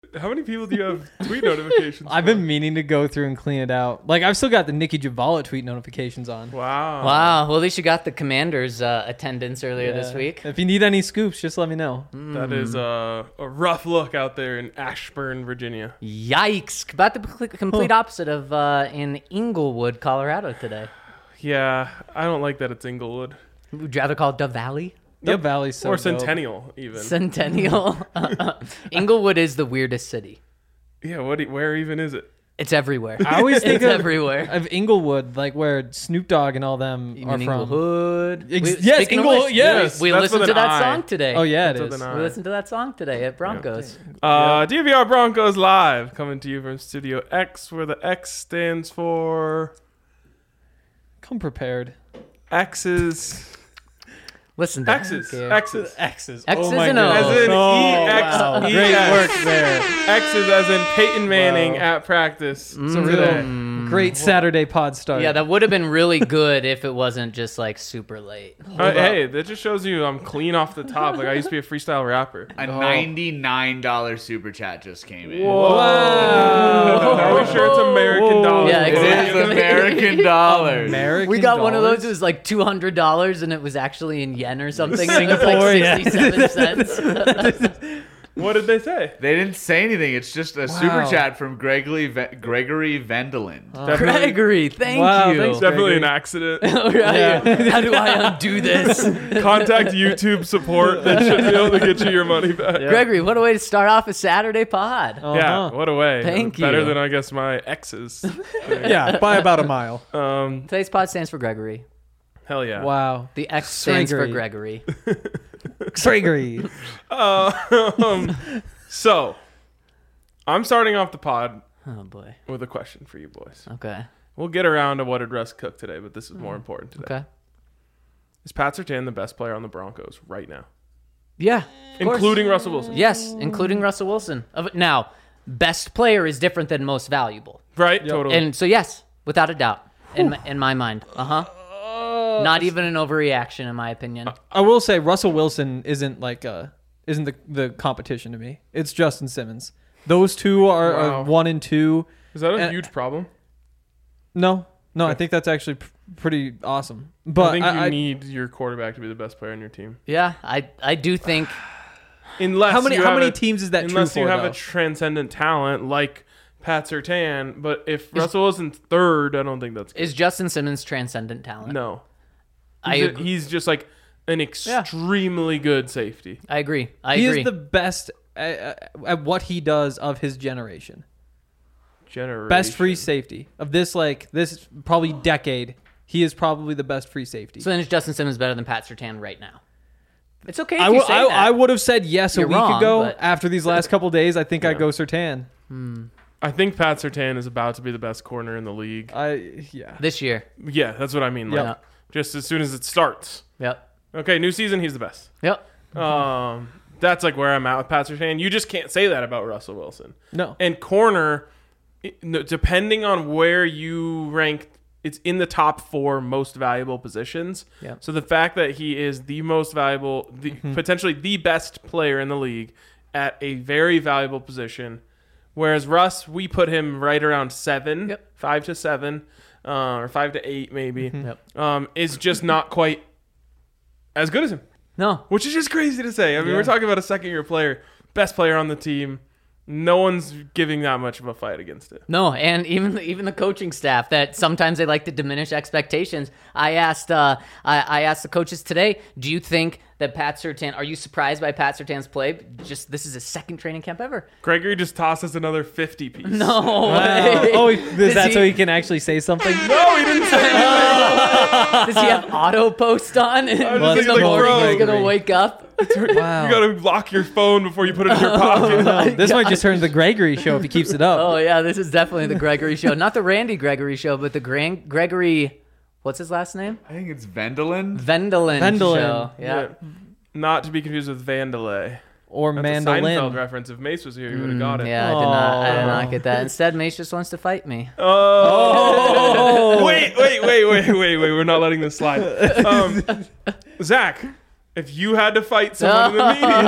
How many people do you have tweet notifications? I've been meaning to go through and clean it out. Like, I've still got the Nikki Javala tweet notifications on. Wow. Wow. Well, at least you got the Commanders' attendance earlier this week. If you need any scoops, just let me know. That is a rough look out there in Ashburn, Virginia. Yikes. About the complete opposite of in Inglewood, Colorado today. Yeah, I don't like that it's Inglewood. Would you rather call it Dove Valley? Dove Valley's so or dope. Centennial, even. Centennial. Inglewood is the weirdest city. Yeah, where even is it? It's everywhere. I always think it's everywhere. of Inglewood, like where Snoop Dogg and all them You are mean from. Inglewood? Yes, Speaking of Inglewood, which, yes. We That's listened with to an that I. song today. Oh, yeah, it That's is. with an We I. listened to that song today at Broncos. DVR Broncos Live, coming to you from Studio X, where the X stands for Come prepared. X's. Listen to X's. that. X's. X's. X's Oh my and O's. goodness. As in wow. EX. Great work there. X's as in Peyton Manning at practice. It's a real great Saturday pod start. Yeah, that would have been really good if it wasn't just like super late. Hey, that just shows you I'm clean off the top. Like I used to be a freestyle rapper. A $99 super chat just came in. Are we sure it's American dollars? Yeah, It exactly. is American dollars. American We got one of dollars? those. It was like $200, and it was actually in yen or something. And it was Singapore, like yeah. 67 cents. What did they say? They didn't say anything. It's just a super chat from Gregory Vendeland. Gregory, thank Wow, you. thanks, Definitely an Gregory. accident. Right. How do I undo this? Contact YouTube support. They should be able to get you your money back. Gregory, what a way to start off a Saturday pod. Yeah, what a way. Thank Better you. than I guess my exes. Yeah, by about a mile. Today's pod stands for Gregory. Hell yeah. Wow. The X stands for Gregory. Gregory. Gregory. So, I'm starting off the pod Oh, boy. with a question for you boys. Okay. We'll get around to what did Russ cook today, but this is more important today. Okay. Is Pat Surtain the best player on the Broncos right now? Yeah. of course. Including Russell Wilson? Yes, including Russell Wilson. Now, best player is different than most valuable. Right? Totally. And so, yes, without a doubt, in my mind. Not even an overreaction, in my opinion. I will say Russell Wilson isn't the competition to me. It's Justin Simmons. Those two are Wow. 1 and 2. Is that a huge problem? No, I think that's actually pretty awesome. But I think you need your quarterback to be the best player on your team. Yeah, I do think. Unless how many you have teams is that true unless for, you have though? a transcendent talent like Pat Surtain, but if Russell Wilson's third, I don't think that's good. Is Justin Simmons transcendent talent? No. I He's just like an extremely good safety. I agree. He is the best at what he does of his generation. Best free safety of this probably decade. He is probably the best free safety. So then is Justin Simmons better than Pat Surtain right now? It's okay if I you say that. I would have said yes You're a week wrong, ago. but- After these last couple days, I think I'd go Surtain. I think Pat Surtain is about to be the best corner in the league. This year. Yeah, that's what I mean. Like, Yep. just as soon as it starts. Yep. Okay, new season, he's the best. Yep. That's like where I'm at with Pat Surtain. You just can't say that about Russell Wilson. No. And corner, depending on where you rank, it's in the top 4 most valuable positions. Yeah. So the fact that he is the most valuable, potentially the best player in the league at a very valuable position, whereas Russ, we put him right around 7, 5 to 7, or 5 to 8 maybe, is just not quite as good as him. No. Which is just crazy to say. I mean, we're talking about a second-year player, best player on the team. No one's giving that much of a fight against it. No, and even the coaching staff that sometimes they like to diminish expectations. I asked I asked the coaches today, do you think that Pat Surtain, are you surprised by Pat Surtain's play? Just this is his second training camp ever. Gregory just tossed us another 50 piece. No. Oh, is that so he can actually say something? No, he didn't say anything. Does he have auto post on? In just the thinking, morning bro. he's gonna wake up. Wow. You gotta lock your phone before you put it in your pocket. This might just turn to the Gregory show if he keeps it up. Oh yeah, this is definitely the Gregory show. Not the Randy Gregory show, but the Gregory, what's his last name? I think it's Vendeland. Vendeland show. Yeah. Not to be confused with Vandalay. Or That's a Seinfeld mandolin. reference. If Mace was here, he would have got it. Yeah, I did not get that. Instead, Mace just wants to fight me. Oh. Wait. We're not letting this slide. Zach, If you had to fight someone in the media,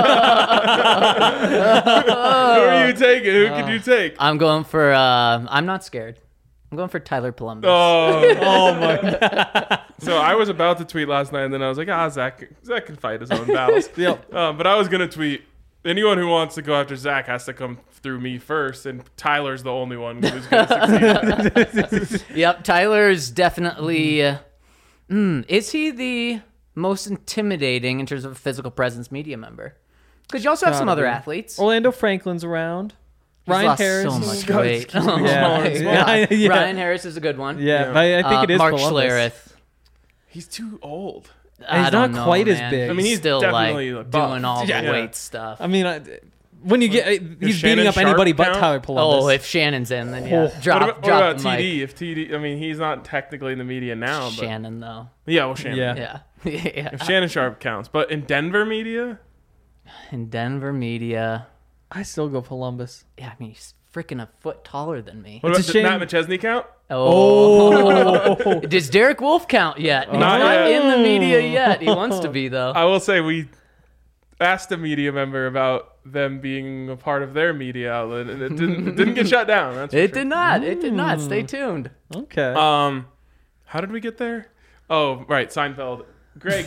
who are you taking? Who could you take? I'm going for. I'm not scared. I'm going for Tyler Columbus. Oh my God. So I was about to tweet last night, and then I was like, Zach can fight his own battles. Yep. But I was gonna tweet. Anyone who wants to go after Zach has to come through me first, and Tyler's the only one who's going to succeed. Yep, Tyler's definitely. Is he the most intimidating in terms of a physical presence media member? Because you also have some other athletes. Orlando Franklin's around. He's Ryan lost Harris. so much weight. Yeah. Ryan Harris is a good one. Yeah, but I think it is Mark Columbus. Schlereth. He's too old. He's not quite as big. I mean, he's still definitely like buff. doing all the Yeah. weight stuff. I mean, when you get he's Shannon beating up Sharp anybody but count? Tyler Columbus. Oh, if Shannon's in, then yeah. What Drop about the mic. TD? If TD, I mean, he's not technically in the media now, but Shannon, though. yeah, well, Shannon. Yeah. Yeah. If Shannon Sharp counts, but in Denver media, In Denver media, I still go Columbus. yeah, I mean, he's freaking a foot taller than me. what It's about a shame- Matt McChesney count? Oh. Does Derek Wolf count yet? He's Not not yet. in the media yet. He wants to be, though. I will say we asked a media member about them being a part of their media outlet, and it didn't get shut down. That's for It sure. did not. It did not. Stay tuned. Okay. How did we get there? Oh, right, Seinfeld. Greg,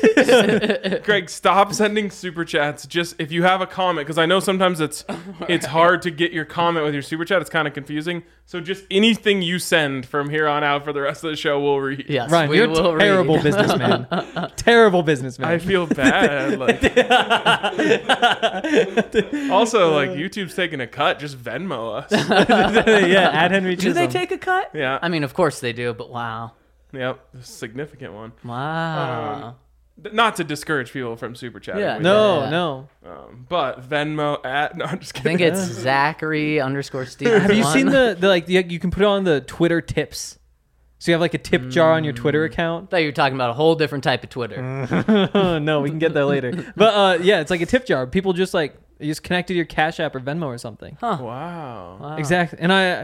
stop sending super chats. Just if you have a comment, because I know sometimes it's hard to get your comment with your super chat. It's kind of confusing. So just anything you send from here on out for the rest of the show, we'll read. Yes, Ryan, we you're will a terrible read. businessman. Terrible businessman. I feel bad. Like, also, like YouTube's taking a cut. Just Venmo us. Yeah, add Henry Do they Chisholm. take a cut? Yeah. I mean, of course they do, but wow. Yep, a significant one. Wow. Not to discourage people from super chatting. Yeah, with No, Yeah. no. but Venmo at no, I'm just I kidding. think it's Zachary_Steve. Have you seen the like you can put it on the Twitter tips? So you have like a tip jar on your Twitter account. I thought you were talking about a whole different type of Twitter. No, we can get there later. But yeah, it's like a tip jar. People just like you just connect to your Cash App or Venmo or something. Wow. Exactly. And I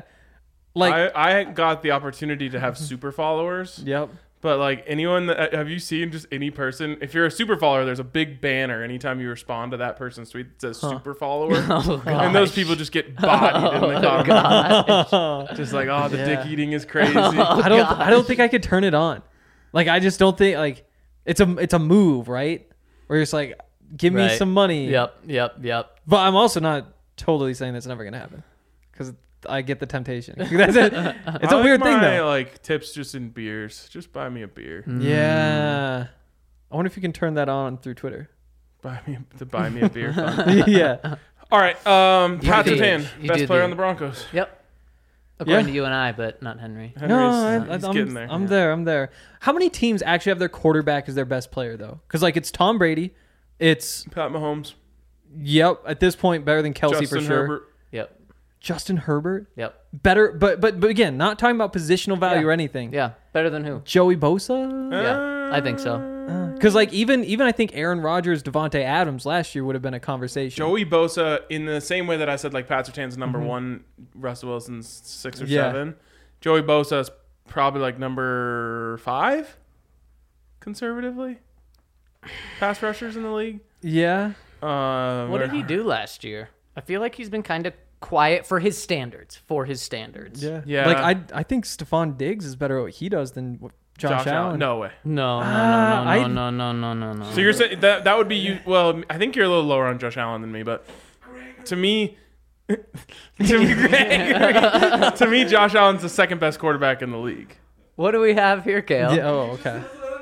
I got the opportunity to have super followers. Yep. But like anyone that have you seen just any person, if you're a super follower, there's a big banner anytime you respond to that person's tweet that says super follower. Oh, gosh. And those people just get bodied in the comments. God. Just like, oh, the dick eating is crazy. I don't think I could turn it on. Like I just don't think like it's a move, right? Where it's like give me Right. some money. Yep. But I'm also not totally saying that's never gonna happen because I get the temptation. It's a weird thing though. Like tips just in beers. Just buy me a beer. Yeah. I wonder if you can turn that on through Twitter. Buy me a beer. Fun. Yeah. All right. Pat do- Surtain, you best do player the- on the Broncos. Yep. According Yeah. to you and I, but not Henry. Henry's he's getting there. I'm there. I'm there. How many teams actually have their quarterback as their best player though? Because like it's Tom Brady, it's Pat Mahomes. yep at this point better than Kelsey Justin for sure. Herbert. Yep. Justin Herbert Yep. better, but again, not talking about positional value Yeah. or anything. Yeah. Better than who? Joey Bosa. Yeah. I think so. Because like even I think Aaron Rodgers, Devontae Adams last year would have been a conversation. Joey Bosa, in the same way that I said like Pat Surtain's number one, Russell Wilson's 6 or Yeah. 7. Joey Bosa is probably like number 5, conservatively. Pass rushers in the league. Yeah. What did he do last year? I feel like he's been kind of quiet for his standards. Yeah. Yeah. Like I think Stephon Diggs is better at what he does than what Josh Allen. No way. No. So you're saying that would be you? Well, I think you're a little lower on Josh Allen than me, but to me, to me, Josh Allen's the second best quarterback in the league. What do we have here, Kale? Yeah, oh, okay.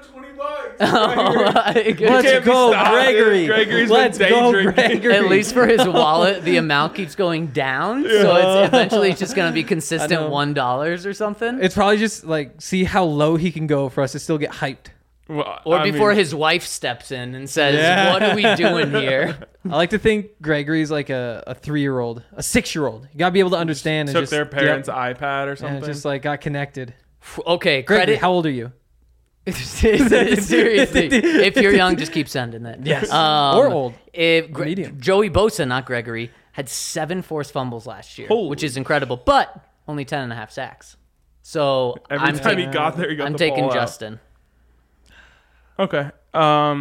Let's Let's go, Gregory. Gregory's Let's been go, day drinking. Gregory. At least for his wallet, the amount keeps going down. So it's eventually just going to be consistent know. $1 or something. It's probably just like see how low he can go for us to still get hyped. Well, Or I before mean, his wife steps in and says, Yeah. "What are we doing here?" I like to think Gregory's like a 3-year-old, a 6-year-old. You gotta be able to understand and took just their parents' yep, iPad or and something. just like got connected. Okay, Gregory, credit. how old are you? Seriously, if you're young, just keep sending it. Yes. Or old. If Medium. Joey Bosa, not Gregory, had 7 forced fumbles last year, Holy. which is incredible, but only 10.5 sacks. So Every time he got there, he got I'm the taking ball out. Justin. Okay.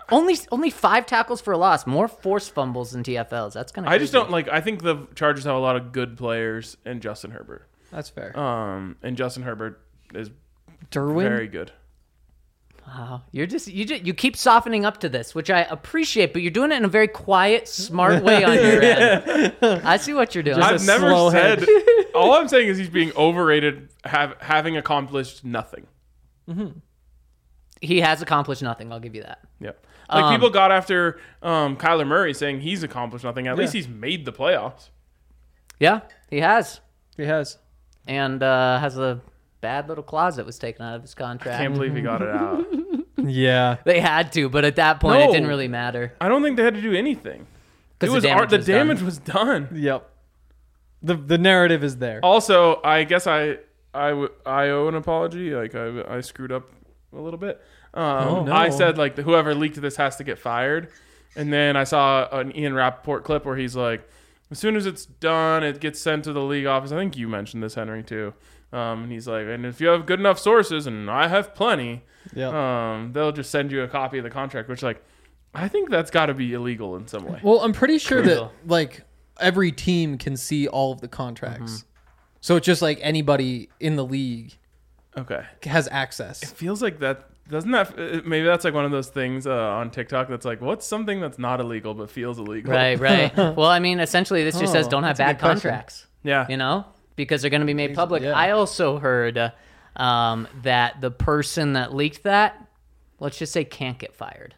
Only 5 tackles for a loss. More forced fumbles than TFLs. That's kind of. I just don't like. I think the Chargers have a lot of good players in Justin Herbert. That's fair. And Justin Herbert is Derwin? very good. Wow, you keep softening up to this, which I appreciate, but you're doing it in a very quiet, smart way on your end. I see what you're doing. I've never said. All I'm saying is he's being overrated, having accomplished nothing. Mm-hmm. He has accomplished nothing. I'll give you that. Yep. Like people got after Kyler Murray saying he's accomplished nothing. At least he's made the playoffs. Yeah, he has. He has. And has a bad little clause that was taken out of his contract. Can't believe he got it out. Yeah. They had to, but at that point, it didn't really matter. I don't think they had to do anything. It was the damage was done. Yep. The narrative is there. Also, I guess I owe an apology. Like I screwed up a little bit. No. I said like whoever leaked this has to get fired, and then I saw an Ian Rappaport clip where he's like, as soon as it's done, it gets sent to the league office. I think you mentioned this, Henry, too. And he's like, and if you have good enough sources, and I have plenty, they'll just send you a copy of the contract. Which, like, I think that's got to be illegal in some way. Well, I'm pretty sure that like every team can see all of the contracts, so it's just like anybody in the league, has access. It feels like that. Doesn't that maybe that's like one of those things on TikTok that's like, what's something that's not illegal but feels illegal? Right. Well, I mean, essentially, this just says don't have bad contracts. Yeah. You know, because they're going to be made public. Yeah. I also heard that the person that leaked that, let's just say, can't get fired.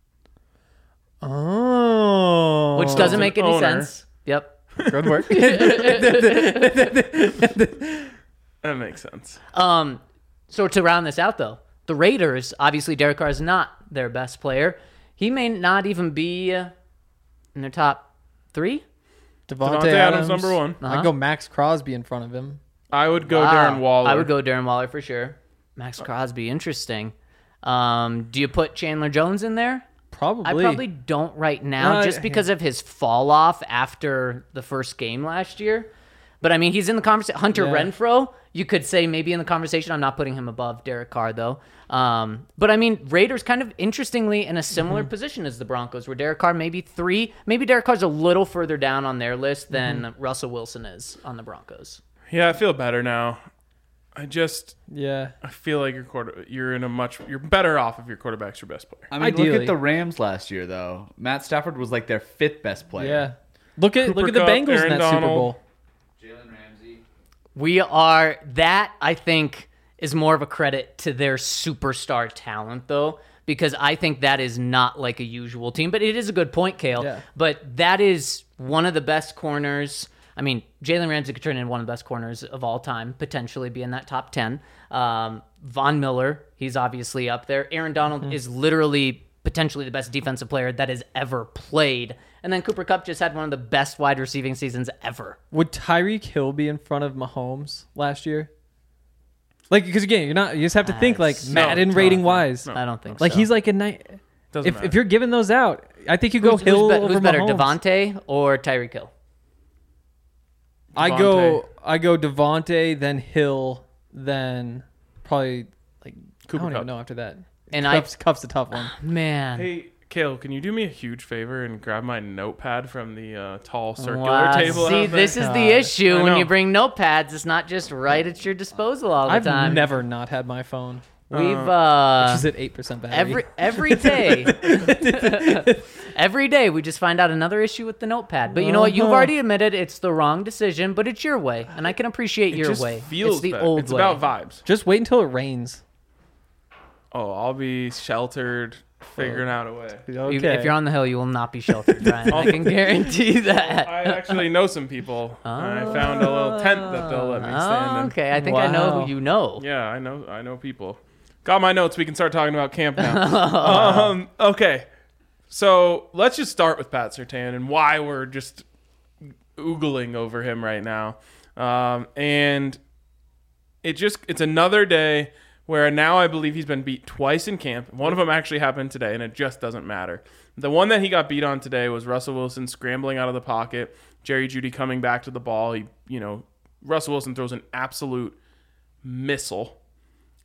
Oh. Which doesn't make any sense. Yep. Good work. That makes sense. So to round this out, though, the Raiders, obviously Derek Carr is not their best player. He may not even be in their top 3. Devontae Adams number 1. I'd go Max Crosby in front of him. I would go Darren Waller. I would go Darren Waller for sure. Max Crosby, interesting. Do you put Chandler Jones in there? Probably. I probably don't right now, just because of his fall off after the first game last year. But I mean, he's in the conversation. Hunter Renfrow, you could say maybe in the conversation. I'm not putting him above Derek Carr though. But I mean, Raiders kind of interestingly in a similar position as the Broncos, where Derek Carr maybe 3. Maybe Derek Carr's a little further down on their list than Russell Wilson is on the Broncos. Yeah, I feel better now. I feel like you're better off if your quarterback's your best player. I mean, look at the Rams last year though. Matt Stafford was like their 5th best player. Yeah. Look at the Kupp, Bengals Aaron in that Super Donald. Bowl. Jalen Ramsey. That I think is more of a credit to their superstar talent though, because I think that is not like a usual team, but it is a good point, Kale. Yeah. But that is one of the best corners. I mean, Jalen Ramsey could turn into one of the best corners of all time, potentially be in that top 10. Von Miller, he's obviously up there. Aaron Donald is literally potentially the best defensive player that has ever played. And then Cooper Kupp just had one of the best wide receiving seasons ever. Would Tyreek Hill be in front of Mahomes last year? Like, because again, you just have to think like Madden rating wise. I don't think like so. He's like a night. If you're giving those out, I think you go Hill over who's better, Mahomes. Devontae or Tyreek Hill? I go Devontae, then Hill, then probably like Cooper I don't Kupp. even know after that. And Kupp's a tough one. Man. Hey, Kale, can you do me a huge favor and grab my notepad from the tall circular Wow. table? See, out this there? is the issue I when know. you bring notepads. It's not just right at your disposal all the I've time. never not had my phone. We've Which is at 8% battery. every day. Every day we just find out another issue with the notepad. But you know what? You've already admitted it's the wrong decision, but it's your way, and I can appreciate It your just way. feels it's the better. old It's way. about vibes. Just wait until it rains. Oh, I'll be sheltered, figuring out a way. If you're on the hill, you will not be sheltered, Brian. I can guarantee that. I actually know some people. I found a little tent that they'll let me stand in. Okay, I think I know who you know. Yeah, I know people. Got my notes. We can start talking about camp now. Okay, so let's just start with Pat Surtain and why we're just oogling over him right now. And it's another day where now I believe he's been beat twice in camp. One of them actually happened today, and it just doesn't matter. The one that he got beat on today was Russell Wilson scrambling out of the pocket, Jerry Jeudy coming back to the ball. Russell Wilson throws an absolute missile.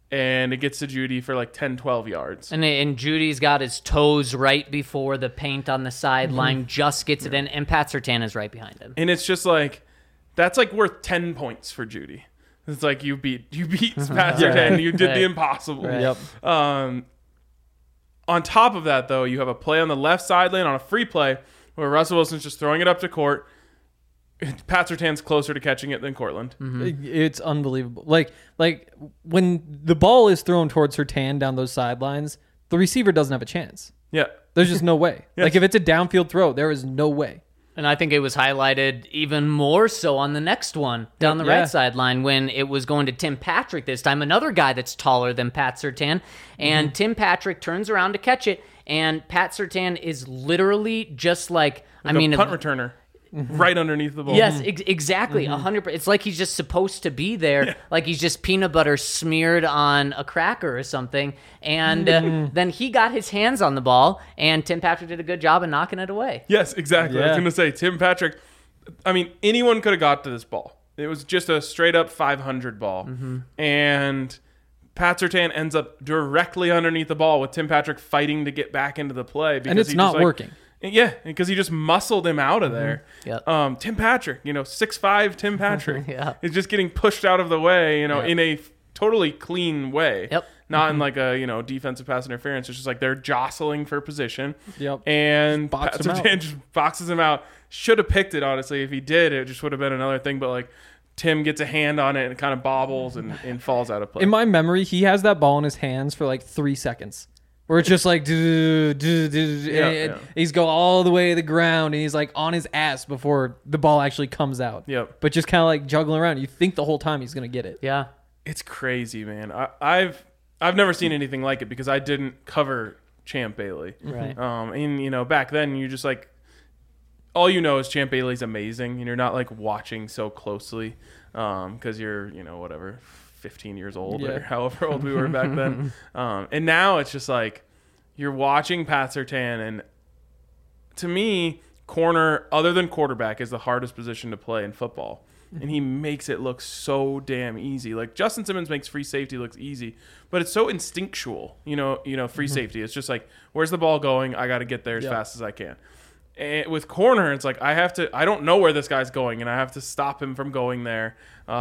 and it gets to Jeudy for like 10, 12 yards. And Judy's got his toes right before the paint on the sideline, just gets it in, and Pat Surtain is right behind him. And it's just like, that's like worth 10 points for Jeudy. It's like you beat Pat Surtain, you did the impossible. Right. Yep. On top of that, though, you have a play on the left sideline on a free play where Russell Wilson's just throwing it up to Court. Pat Surtain's closer to catching it than Cortland. It's unbelievable. Like when the ball is thrown towards Surtain down those sidelines, the receiver doesn't have a chance. Yeah. There's just no way. Yes. Like if it's a downfield throw, there is no way. And I think it was highlighted even more so on the next one down the right sideline when it was going to Tim Patrick this time, another guy that's taller than Pat Surtain. And Tim Patrick turns around to catch it, and Pat Surtain is literally just like a punt returner. Right underneath the ball. Yes, exactly. 100%. It's like he's just supposed to be there, like he's just peanut butter smeared on a cracker or something. And then he got his hands on the ball, and Tim Patrick did a good job of knocking it away. Yes, exactly. I was going to say, Tim Patrick, I mean, anyone could have got to this ball. It was just a straight up 500 ball. And Pat Surtain ends up directly underneath the ball with Tim Patrick fighting to get back into the play. And it's not working. Yeah, because he just muscled him out of there. Yep. Tim Patrick, 6'5" Tim Patrick is just getting pushed out of the way, in a totally clean way. Yep. Not in like a, defensive pass interference. It's just like they're jostling for position. Yep. And Pat Surtain just boxes him out. Should have picked it, honestly. If he did, it just would have been another thing. But like Tim gets a hand on it and it kind of bobbles and falls out of play. In my memory, he has that ball in his hands for like 3 seconds. Where it's just like, he's go all the way to the ground, and he's like on his ass before the ball actually comes out. Yep. But just kind of like juggling around. You think the whole time he's going to get it. Yeah. It's crazy, man. I've never seen anything like it because I didn't cover Champ Bailey. Right. And back then you just like, all you know is Champ Bailey's amazing, and you're not like watching so closely because you're, whatever, 15 years old or however old we were back then. And now it's just like you're watching Pat Surtain, and to me, corner, other than quarterback, is the hardest position to play in football. And he makes it look so damn easy. Like Justin Simmons makes free safety look easy, but it's so instinctual, free safety. It's just like, where's the ball going? I got to get there as fast as I can. And with corner, it's like I don't know where this guy's going, and I have to stop him from going there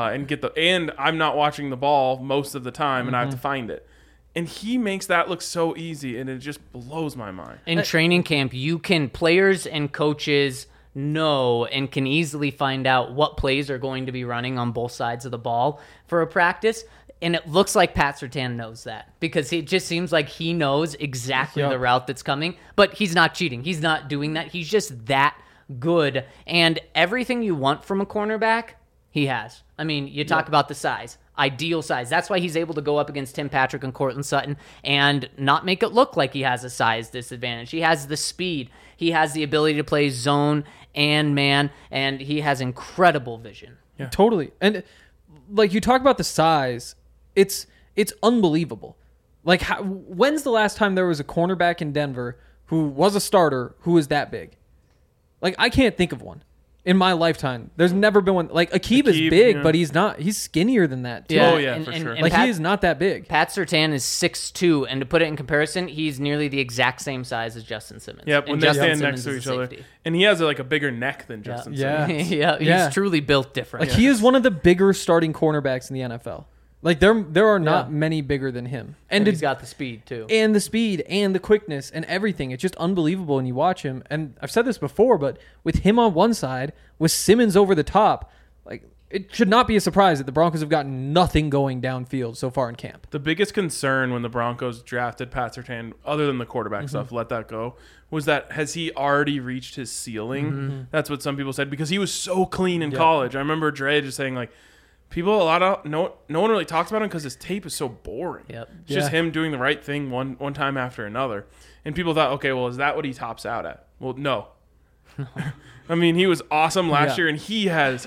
and I'm not watching the ball most of the time, and I have to find it. And he makes that look so easy, and it just blows my mind. In training camp, players and coaches know and can easily find out what plays are going to be running on both sides of the ball for a practice. And it looks like Pat Surtain knows that because it just seems like he knows exactly the route that's coming, but he's not cheating. He's not doing that. He's just that good. And everything you want from a cornerback, he has. I mean, you talk about the size, ideal size. That's why he's able to go up against Tim Patrick and Courtland Sutton and not make it look like he has a size disadvantage. He has the speed. He has the ability to play zone and man, and he has incredible vision. Yeah. Totally. And like you talk about the size, it's unbelievable. Like, when's the last time there was a cornerback in Denver who was a starter who was that big? Like, I can't think of one in my lifetime. There's never been one. Like, Aqib is big, but he's not. He's skinnier than that, too. Yeah, for sure. Like, he is not that big. Pat Surtain is 6'2", and to put it in comparison, he's nearly the exact same size as Justin Simmons. Yep, when they stand next to each other. And he has a bigger neck than Justin Simmons. He's truly built different. Like, he is one of the bigger starting cornerbacks in the NFL. Like, there are not many bigger than him. And he's got the speed, too. And the speed and the quickness and everything. It's just unbelievable when you watch him. And I've said this before, but with him on one side, with Simmons over the top, like, it should not be a surprise that the Broncos have gotten nothing going downfield so far in camp. The biggest concern when the Broncos drafted Pat Surtain, other than the quarterback stuff, let that go, was that has he already reached his ceiling? That's what some people said, because he was so clean in college. I remember Dre just saying, like, no one really talks about him because his tape is so boring. Yep. It's just him doing the right thing one time after another. And people thought, okay, well, is that what he tops out at? Well, no. I mean, he was awesome last year, and he has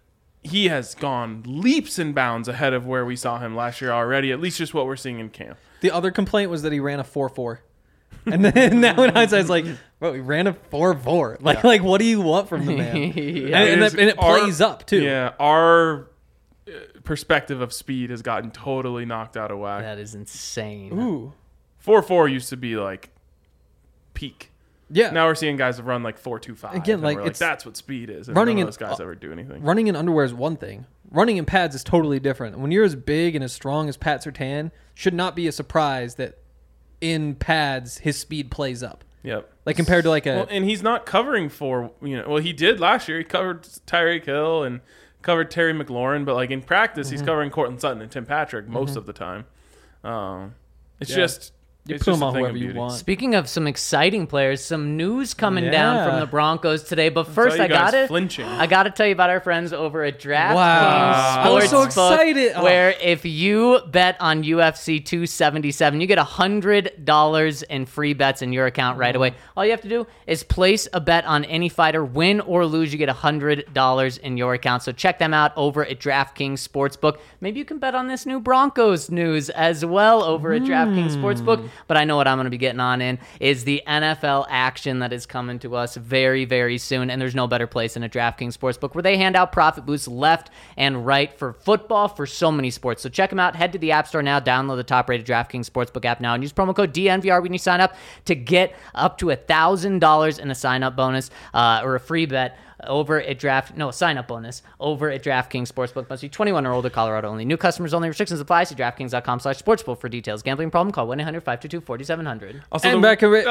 gone leaps and bounds ahead of where we saw him last year already, at least just what we're seeing in camp. The other complaint was that he ran a 4.4. And then now in hindsight, it's like, bro, he ran a 4.4. Like, what do you want from the man? And it plays up, too. Yeah, our perspective of speed has gotten totally knocked out of whack. That is insane. Ooh. 4.4 used to be like peak. Yeah. Now we're seeing guys run like 4.25. Again, and like, we're it's that's what speed is. And running none in- of those guys ever do anything. Running in underwear is one thing. Running in pads is totally different. When you're as big and as strong as Pat Surtain, should not be a surprise that in pads his speed plays up. Yep. Like compared to like a Well, and he's not covering for, well, he did last year. He covered Tyreek Hill and covered Terry McLaurin, but like in practice, he's covering Cortland Sutton and Tim Patrick most of the time. It's Yeah. just you it's put just them a on thing of whoever you beauty. want. Speaking of some exciting players, some news coming Yeah. down from the Broncos today. But Saw first, you I guys gotta flinching. tell you about our friends over at DraftKings Wow. I was so Sportsbook, excited. Oh. where if you bet on UFC 277, you get $100 in free bets in your account right away. All you have to do is place a bet on any fighter, win or lose. You get $100 in your account. So check them out over at DraftKings Sportsbook. Maybe you can bet on this new Broncos news as well over at DraftKings Sportsbook. But I know what I'm going to be getting on in is the NFL action that is coming to us very, very soon. And there's no better place than a DraftKings Sportsbook where they hand out profit boosts left and right for football, for so many sports. So check them out. Head to the App Store now. Download the top-rated DraftKings Sportsbook app now and use promo code DNVR when you sign up to get up to $1,000 in a sign-up bonus or a free bet over at sign-up bonus over at DraftKings Sportsbook. Must be 21 or older, Colorado only. New customers only. Restrictions apply. See DraftKings.com/sportsbook for details. Gambling problem? Call 1-800-522-4700. Also, And the, back of it.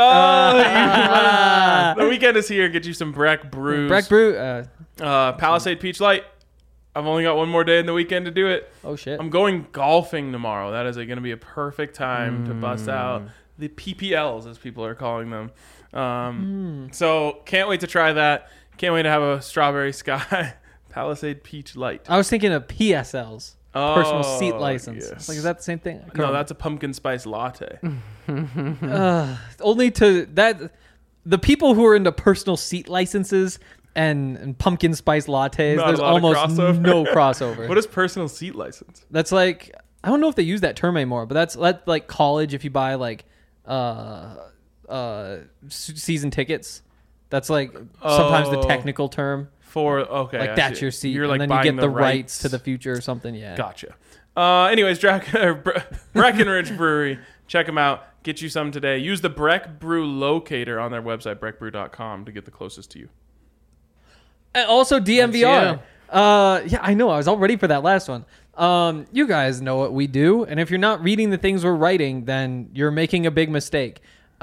the weekend is here. Get you some Breck Brews. Breck Brew. Palisade Peach Light. I've only got one more day in the weekend to do it. Oh shit. I'm going golfing tomorrow. That is going to be a perfect time to bust out the PPLs, as people are calling them. So can't wait to try that. Can't wait to have a strawberry sky Palisade Peach Light. I was thinking of PSLs. Personal seat Oh, license. yes. Like, is that the same thing? I couldn't No, remember. that's a pumpkin spice latte. Only to that. The people who are into personal seat licenses and pumpkin spice lattes, Not a there's lot of almost crossover. no crossover. What is personal seat license? That's like, I don't know if they use that term anymore, but that's like college. If you buy like season tickets, that's like sometimes the Oh. technical term. Okay, Like I that's see. your seat, You're and like then you buying get the rights to the future or something. Yeah. Gotcha. Anyways, Breckenridge Brewery. Check them out. Get you some today. Use the Breck Brew locator on their website, breckbrew.com, to get the closest to you. And also DMVR. That's Yeah, I know. I was all ready for that last one. You guys know what we do, and if you're not reading the things we're writing, then you're making a big mistake.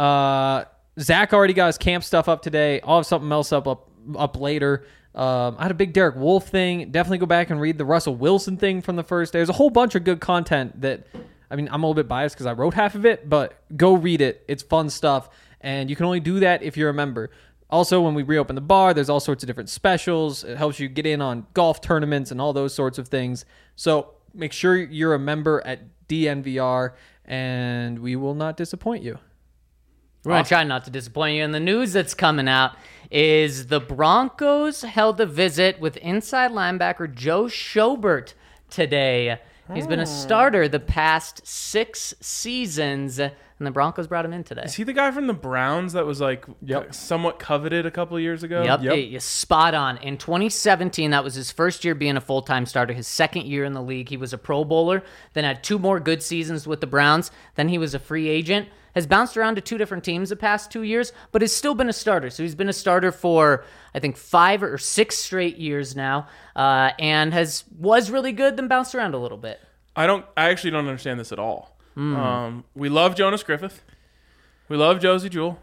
Zach already got his camp stuff up today. I'll have something else up later. I had a big Derek Wolfe thing. Definitely go back and read the Russell Wilson thing from the first day. There's a whole bunch of good content that, I mean, I'm a little bit biased because I wrote half of it, but go read it. It's fun stuff, and you can only do that if you're a member. Also, when we reopen the bar, there's all sorts of different specials. It helps you get in on golf tournaments and all those sorts of things. So make sure you're a member at DNVR, and we will not disappoint you. We're going to try not to disappoint you. And the news that's coming out is the Broncos held a visit with inside linebacker Joe Schobert today. He's been a starter the past 6 seasons, and the Broncos brought him in today. Is he the guy from the Browns that was like somewhat coveted a couple years ago? Yep. You're spot on. In 2017, that was his first year being a full-time starter, his second year in the league. He was a Pro Bowler, then had 2 more good seasons with the Browns. Then he was a free agent, has bounced around to 2 different teams the past 2 years, but has still been a starter. So he's been a starter for, I think, 5 or 6 straight years now, and was really good, then bounced around a little bit. I actually don't understand this at all. We love Jonas Griffith. We love Josie Jewell.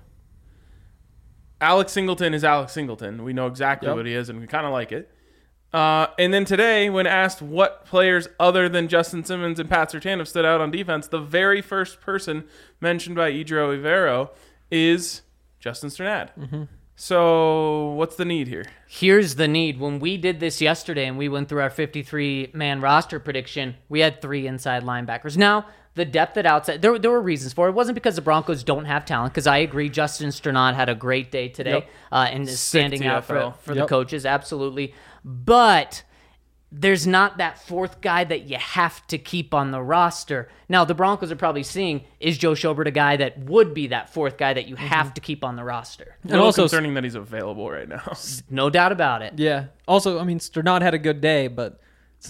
Alex Singleton is Alex Singleton. We know exactly what he is, and we kind of like it. And then today, when asked what players other than Justin Simmons and Pat Surtain have stood out on defense, the very first person mentioned by Idro Ivero is Justin Strnad. So what's the need here? Here's the need. When we did this yesterday and we went through our 53-man roster prediction, we had 3 inside linebackers. Now, the depth at outside, there were reasons for it. It wasn't because the Broncos don't have talent, because I agree Justin Strnad had a great day today and is standing out for the coaches, absolutely. But there's not that 4th guy that you have to keep on the roster. Now, the Broncos are probably seeing, is Joe Schobert a guy that would be that 4th guy that you have to keep on the roster? And also concerning that he's available right now. No doubt about it. Yeah. Also, I mean, Strnad had a good day, but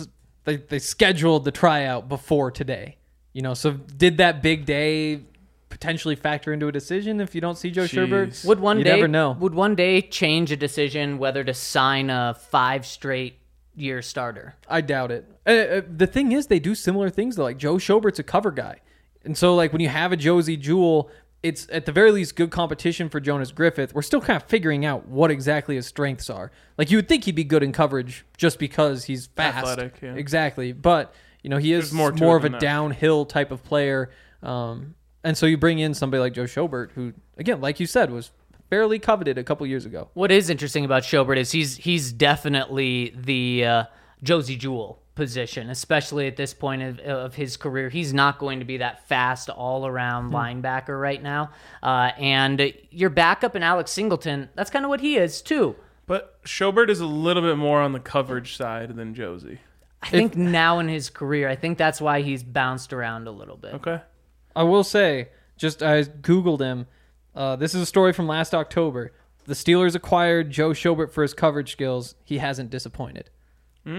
they scheduled the tryout before today. So did that big day potentially factor into a decision if you don't see Joe Sherbert? Would one you day never know. Would one day change a decision whether to sign a 5 straight year starter? I doubt it. The thing is, they do similar things though. Like Joe Schobert's a cover guy, and so like when you have a Josie Jewell, it's at the very least good competition for Jonas Griffith. We're still kind of figuring out what exactly his strengths are. Like you would think he'd be good in coverage just because he's fast, Athletic, yeah. Exactly. But he is There's more of a that. downhill type of player. And so you bring in somebody like Joe Schobert, who, again, like you said, was fairly coveted a couple years ago. What is interesting about Schobert is he's definitely the Josie Jewell position, especially at this point of his career. He's not going to be that fast all-around linebacker right now. And your backup in Alex Singleton, that's kind of what he is too. But Schobert is a little bit more on the coverage side than Josie. I think now in his career, I think that's why he's bounced around a little bit. Okay. I will say, I Googled him. This is a story from last October. The Steelers acquired Joe Schobert for his coverage skills. He hasn't disappointed. There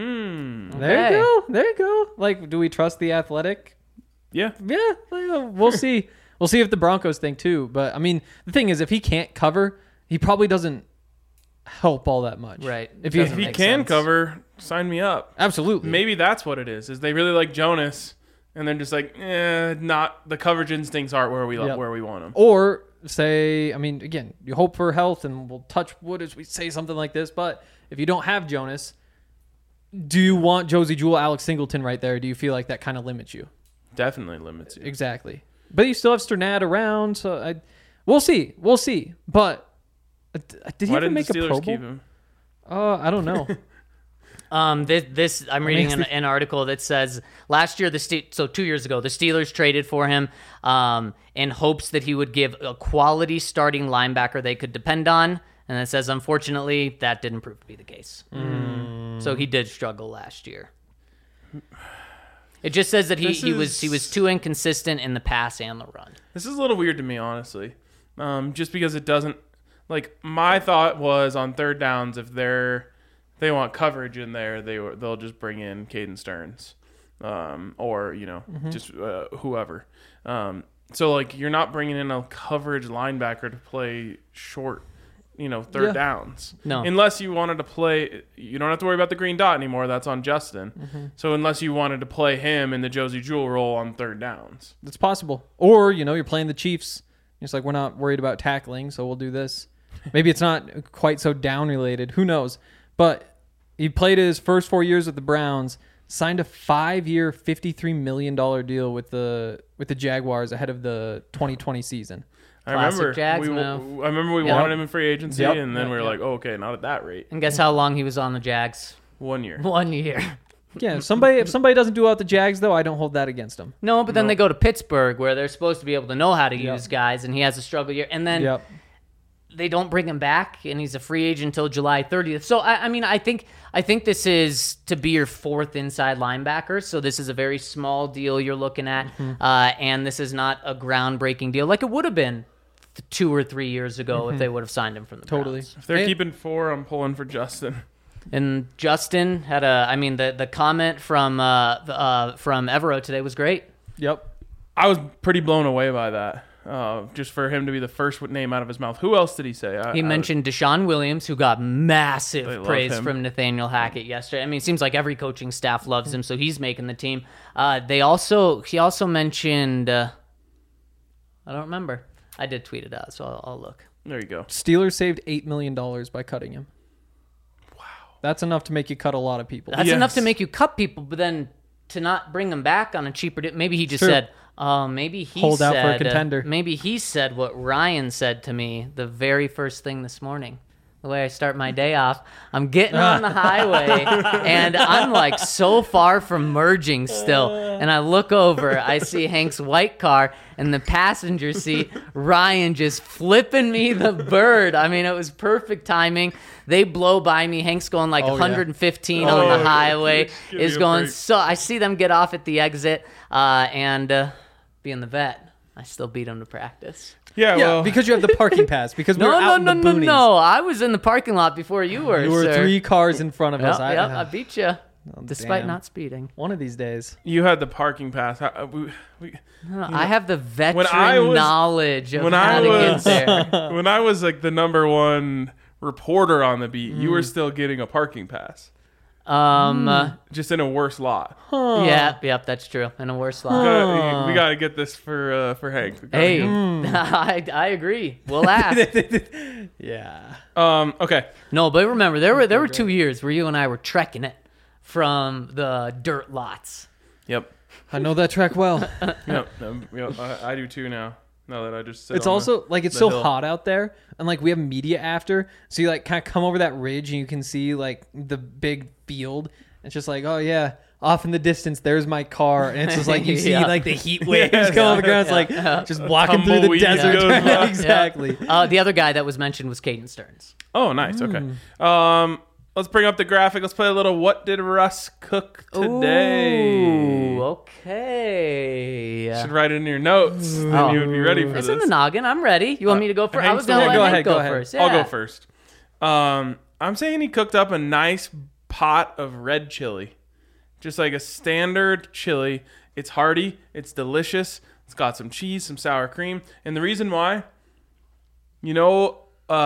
you go. Like, do we trust the Athletic? Yeah. Yeah, we'll see. We'll see if the Broncos think too. But I mean, the thing is, if he can't cover, he probably doesn't help all that much. Right. If Doesn't If he make can sense. cover, sign me up. absolutely. Maybe that's what it is they really like Jonas, and they're just like, not the coverage instincts aren't where we Yep. where we want them. Or say, I mean, again, you hope for health, and we'll touch wood as we say something like this. But if you don't have Jonas, do you want Josie Jewell, Alex Singleton right there? Or do you feel like that kind of limits you? Definitely limits you. Exactly. But you still have Sternad around, so we'll see. We'll see. But did he Why ever didn't make the a Steelers Pro Bowl? keep him? I don't know. This I'm reading an article that says last year 2 years ago the Steelers traded for him in hopes that he would give a quality starting linebacker they could depend on, and it says unfortunately that didn't prove to be the case. So he did struggle last year. It just says that he was too inconsistent in the pass and the run. This is a little weird to me, honestly. Just because it doesn't, like, my thought was on third downs, if they want coverage in there, they'll just bring in Caden Stearns, or just whoever. So like you're not bringing in a coverage linebacker to play short, third downs. No, unless you wanted to play, you don't have to worry about the green dot anymore. That's on Justin. So unless you wanted to play him in the Josie Jewell role on third downs, That's possible. Or, you're playing the Chiefs. It's like, we're not worried about tackling, so we'll do this. Maybe it's not quite so down related. Who knows? But he played his first 4 years with the Browns, signed a 5-year, $53 million deal with the Jaguars ahead of the 2020 season. Classic Jags move. I remember we wanted him in free agency, Yep. and then we were Yep. like, oh, okay, not at that rate. and guess how long he was on the Jags? 1 year. 1 year. Yeah, if somebody doesn't do out the Jags, though, I don't hold that against them. No, but then they go to Pittsburgh where they're supposed to be able to know how to use guys, and he has a struggle year, and then they don't bring him back, and he's a free agent until July 30th. So I think this is to be your fourth inside linebacker. So this is a very small deal you're looking at, and this is not a groundbreaking deal like it would have been 2 or 3 years ago if they would have signed him from the Browns. If they're keeping 4, I'm pulling for Justin. And Justin had the comment from Evero today was great. Yep. I was pretty blown away by that. Just for him to be the first name out of his mouth. Who else did he say? He mentioned Deshaun Williams, who got They massive love praise him. from Nathaniel Hackett yesterday. I mean, it seems like every coaching staff loves him, so he's making the team. He also mentioned, I don't remember. I did tweet it out, so I'll look. There you go. Steelers saved $8 million by cutting him. Wow. That's enough to make you cut a lot of people. That's Yes. enough to make you cut people, but then to not bring them back on a cheaper deal. Maybe he just True. said, maybe he Hold said, out for a contender. Maybe he said what Ryan said to me the very first thing this morning. The way I start my day off, I'm getting on the highway, and I'm like so far from merging still. And I look over, I see Hank's white car, and the passenger seat, Ryan just flipping me the bird. I mean, it was perfect timing. They blow by me. Hank's going like 115 on the highway. Give me Is a going break. so. I see them get off at the exit, and being the vet, I still beat him to practice. Yeah, Yeah, well, because you have the parking pass. Because we're out in the boonies. No. I was in the parking lot before you were. You were sir. 3 cars in front of us. Yep, I beat you. despite damn. not speeding. One of these days. You had the parking pass. I have the veteran I was- knowledge of when how I to was get there. when I was like the number one reporter on the beat, you were still getting a parking pass, just in a worse lot. Yep, that's true. In a worse lot. We gotta get this for Hank. We gotta Hey, get- I agree. We'll ask. Yeah. Okay. No, but remember, there were 2 years where you and I were trekking it from the dirt lots. Yep. I know that track well. Yep. I do too now. Now that I just sit It's on also like it's the so hill. hot out there, and like we have media after, so you like kind of come over that ridge and you can see like the big field. It's just like, oh yeah, off in the distance there's my car, and it's just like you see Yeah. like the heat waves Yes. come on the ground. It's like just walking through the Tumbleweed desert. goes by. Exactly. The other guy that was mentioned was Caden Stearns. Oh, nice. Okay. Let's bring up the graphic. Let's play a little. What did Russ cook today? Ooh, okay. Should write it in your notes. Then you would be ready for It's this. in the noggin. I'm ready. You want me to go first? I was Hank's going to the- let Go Hank ahead, go go ahead. first. I'll Yeah. go first. I'm saying he cooked up a nice pot of red chili. Just like a standard chili. It's hearty. It's delicious. It's got some cheese, some sour cream. And the reason why, you know,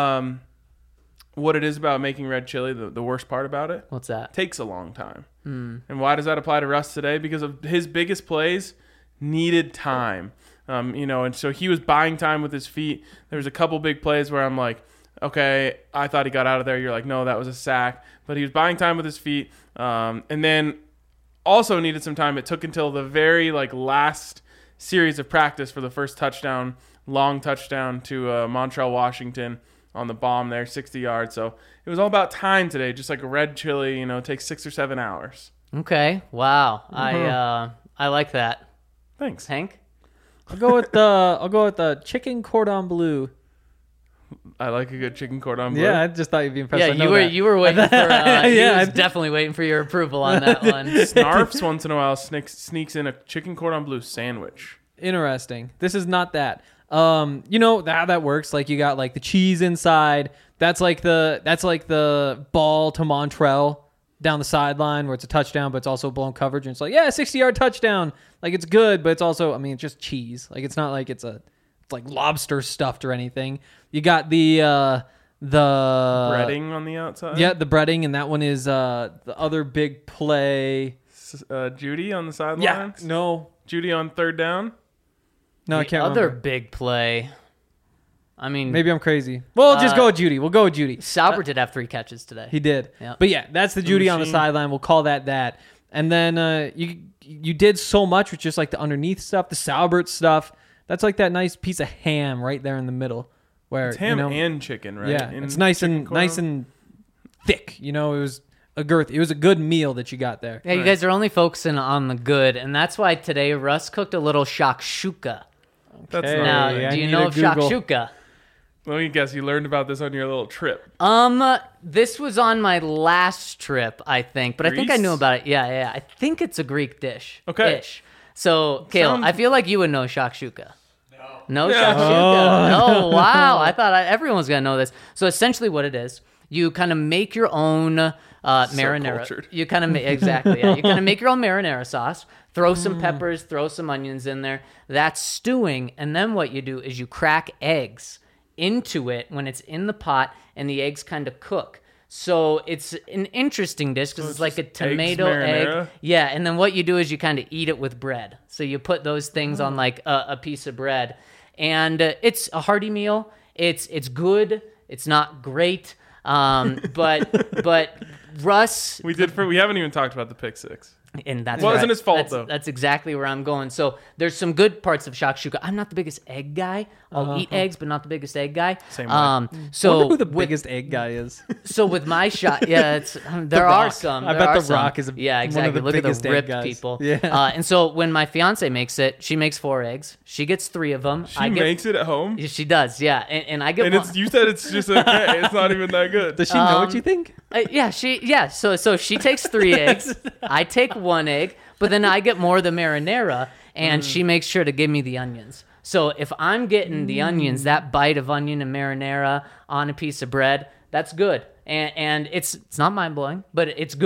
what it is about making red chili, the worst part about it? What's that? Takes a long time. And why does that apply to Russ today? Because of his biggest plays needed time. And so he was buying time with his feet. There was a couple big plays where I'm like, okay, I thought he got out of there. You're like, no, that was a sack. But he was buying time with his feet. And then also needed some time. It took until the very last series of practice for the first touchdown, long touchdown to Montreal, Washington on the bomb there, 60 yards. So it was all about time today. Just like a red chili, takes 6 or 7 hours. Okay. Wow. I like that. Thanks. Hank? I'll go with the chicken cordon bleu. I like a good chicken cordon bleu. Yeah, I just thought you'd be impressed. Yeah, I know you were that. you were waiting for he Yeah, was I- definitely waiting for your approval on that one. Snarfs once in a while sneaks in a chicken cordon bleu sandwich. Interesting. This is not that. You know how that works. Like you got like the cheese inside. That's like the ball to Montreal down the sideline where it's a touchdown, but it's also blown coverage. And it's like, yeah, 60-yard touchdown. Like it's good, but it's also, I mean, it's just cheese. Like it's not like it's like lobster stuffed or anything. You got the Breading on the outside. Yeah, the breading, and that one is the other big play. Judy on the sidelines. Yeah, no, Judy on third down. I The can't other remember. big play. I mean, Maybe I'm crazy. Well, just go with Judy. We'll go with Judy. Sauber did have 3 catches today. He did. Yeah. But yeah, that's the Judy on the machine. sideline. We'll call that. And then you did so much with just like the underneath stuff, the Saubert stuff. That's like that nice piece of ham right there in the middle. Where It's ham you know, and chicken, right? yeah, In it's nice chicken and cordon? thick. You know, it was a girth. It was a good meal that you got there. Yeah, you guys are only focusing on the good, and that's why today Russ cooked a little shakshuka. That's Hey. not Now, really- I do you need know to of Google. shakshuka? Let me guess. You learned about this on your little trip. This was on my last trip, I think, but I think I Greece? knew about it. Yeah. I think it's a Greek dish. Okay. Ish. So, Kale, Sounds- I feel like you would know shakshuka. No shakshuka. Oh, wow. I thought everyone was going to know this. So essentially what it is, you kind of make your own marinara. cultured. You kind of exactly. Yeah. You kind of make your own marinara sauce, throw some peppers, throw some onions in there. That's stewing, and then what you do is you crack eggs into it when it's in the pot, and the eggs kind of cook. So it's an interesting dish because it's like a just eggs tomato marinara? egg. Yeah, and then what you do is you kind of eat it with bread. So you put those things on like a piece of bread, and it's a hearty meal. It's good. It's not great, but Russ, We haven't even talked about the pick six. and that's Well, it right. wasn't his fault, That's- though. That's exactly where I'm going. So there's some good parts of shakshuka. I'm not the biggest egg guy. I'll eat eggs, but not the biggest egg guy. Same way. So I wonder who the with, biggest egg guy is. so with my shot, yeah, it's there are Rock. some. I there bet are The some. Rock is yeah, one of exactly. the Look at biggest the egg ripped guys. people. Yeah. And so when my fiance makes it, she makes 4 eggs. She gets 3 of them. She makes it at home, She does, yeah, and I get and one. you said it's just okay. It's not even that good. Does she know what you think? Yeah. So she takes 3 eggs. I take 1 egg, but then I get more of the marinara, and she makes sure to give me the onions. So if I'm getting the onions, that bite of onion and marinara on a piece of bread, that's good. And it's not mind blowing, but it's good.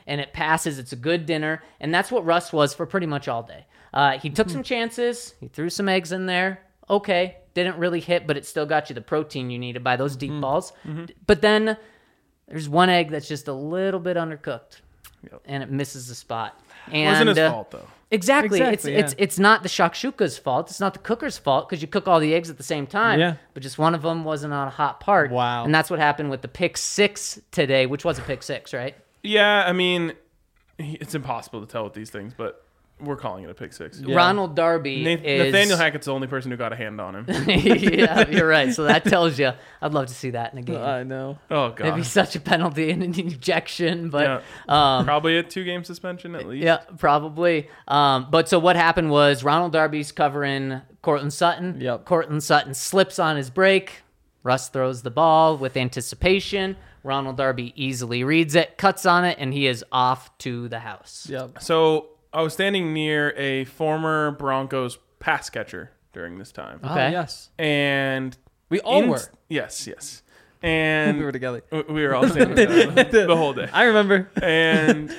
and it passes. It's a good dinner, and that's what Russ was for pretty much all day. He took some chances. He threw some eggs in there. Okay, didn't really hit, but it still got you the protein you needed by those deep balls. But then there's one egg that's just a little bit undercooked, and it misses the spot. And, Wasn't his fault though. Exactly. Exactly, It's not the shakshuka's fault. It's not the cooker's fault because you cook all the eggs at the same time. Yeah. But just one of them wasn't on a hot part. Wow. And that's what happened with the pick 6 today, which was a pick 6, right? Yeah, I mean, it's impossible to tell with these things, but we're calling it a pick 6. Yeah. Ronald Darby is... Nathaniel Hackett's the only person who got a hand on him. Yeah, you're right. So that tells you. I'd love to see that in a game. I know. Oh It'd be god. such a penalty and an ejection, but Probably a 2-game suspension at least. yeah, probably. But so what happened was Ronald Darby's covering Cortland Sutton. Yep. Cortland Sutton slips on his break. Russ throws the ball with anticipation. Ronald Darby easily reads it, cuts on it, and he is off to the house. Yep. So I was standing near a former Broncos pass catcher during this time, Okay. Yes. and We all were. Yes, and We were together. we were all standing there the whole day. I remember. And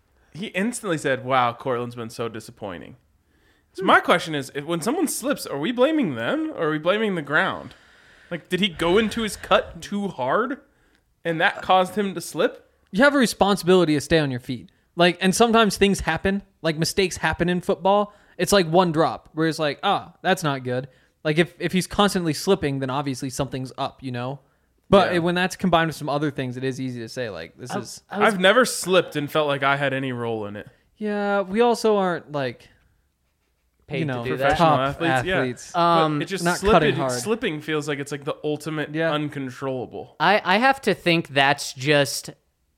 he instantly said, "Wow, Cortland's been so disappointing." So my question is, when someone slips, are we blaming them or are we blaming the ground? Like, did he go into his cut too hard, and that caused him to slip? You have a responsibility to stay on your feet. Like, and sometimes things happen. Like, mistakes happen in football. It's like one drop where it's like, that's not good. Like, if he's constantly slipping, then obviously something's up, you know? But Yeah. when that's combined with some other things, it is easy to say, like, this is... I've never slipped and felt like I had any role in it. Yeah, we also aren't, like, Paid you know, to do that. professional top athletes, athletes. yeah. But it just not cutting hard. slipping feels like it's like the ultimate Yeah. uncontrollable. I have to think that's just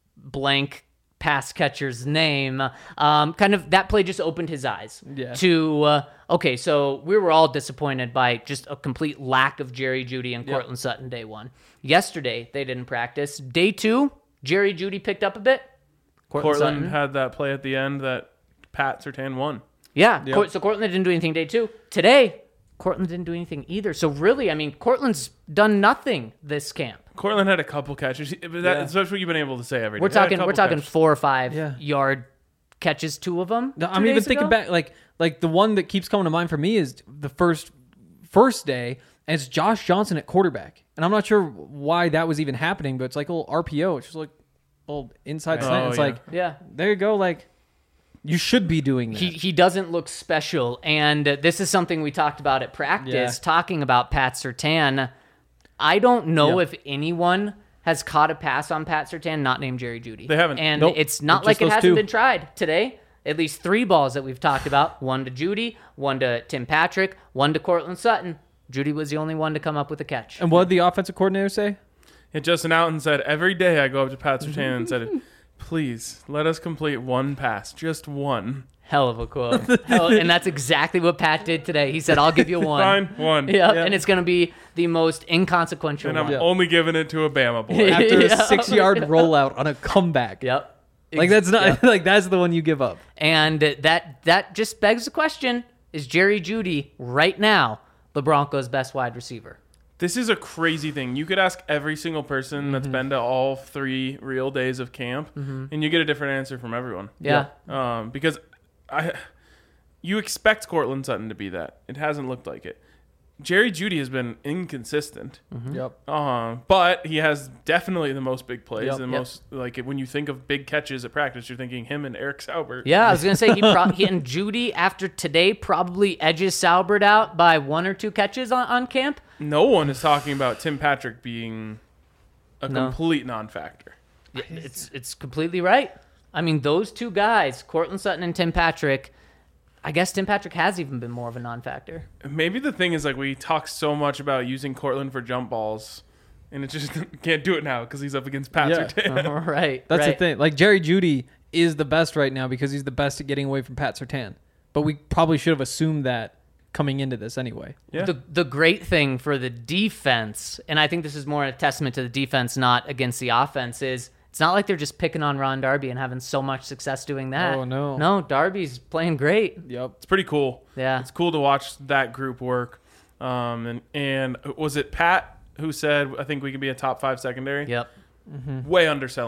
blank pass catcher's name. Kind of that play just opened his eyes Yeah. to, okay, so we were all disappointed by just a complete lack of Jerry Jeudy and Cortland Sutton day 1. Yesterday, they didn't practice. Day 2, Jerry Jeudy picked up a bit. Cortland Sutton. had that play at the end that Pat Surtain won. Yeah, Yep. so Cortland didn't do anything day 2. Today, Cortland didn't do anything either. So really, I mean, Cortland's done nothing this camp. Cortland had a couple catches, but that's what you've been able to say every day. We're He had a talking couple 4 catches. or 5 Yeah. yard catches, 2 of them. No, 2 I'm even days thinking ago? back, like the one that keeps coming to mind for me is the first day, and it's Josh Johnson at quarterback. And I'm not sure why that was even happening, but it's like a little RPO. It's just like a little inside slant. It's yeah. like, Yeah. there you go. Like, you should be doing that. He doesn't look special, and this is something we talked about at practice, Yeah. talking about Pat Surtain. I don't know Yep. if anyone has caught a pass on Pat Surtain not named Jerry Jeudy. They haven't. And Nope. it's not It's like just it those hasn't two. been tried today. At least 3 balls that we've talked about. 1 to Jeudy, 1 to Tim Patrick, 1 to Cortland Sutton. Jeudy was the only one to come up with a catch. And what did the offensive coordinator say? And Justin Alton said, every day I go up to Pat Surtain and said, please let us complete one pass, just one. Hell of a quote. And that's exactly what Pat did today. He said, I'll give you 1. Fine, one. Yeah, and it's going to be the most inconsequential And I'm one. only giving it to a Bama boy. After a Yeah. 6-yard rollout on a comeback. Yep. Like, that's not, like, that's the one you give up. And that just begs the question, is Jerry Jeudy right now the Broncos' best wide receiver? This is a crazy thing. You could ask every single person that's been to all 3 real days of camp, and you get a different answer from everyone. Yeah. Because you expect Cortland Sutton to be that. It hasn't looked like it. Jerry Jeudy has been inconsistent. Yep. But he has definitely the most big plays Yep. and most, like, when you think of big catches at practice, you're thinking him and Eric Saubert. Yeah, I was going to say he and Jeudy after today probably edges Saubert out by 1 or 2 catches on camp. No one is talking about Tim Patrick being a complete non-factor. It's completely right. I mean, those 2 guys, Cortland Sutton and Tim Patrick, I guess Tim Patrick has even been more of a non-factor. Maybe the thing is, like, we talk so much about using Cortland for jump balls, and it just can't do it now because he's up against Pat Yeah. Surtain. Right. That's right. the thing. Like, Jerry Jeudy is the best right now because he's the best at getting away from Pat Surtain. But we probably should have assumed that coming into this anyway. Yeah. The great thing for the defense, and I think this is more a testament to the defense, not against the offense, is it's not like they're just picking on Ron Darby and having so much success doing that. Oh, no. No, Darby's playing great. Yep. It's pretty cool. Yeah. It's cool to watch that group work. And was it Pat who said, I think we could be a top 5 secondary? Yep. Way underselling it.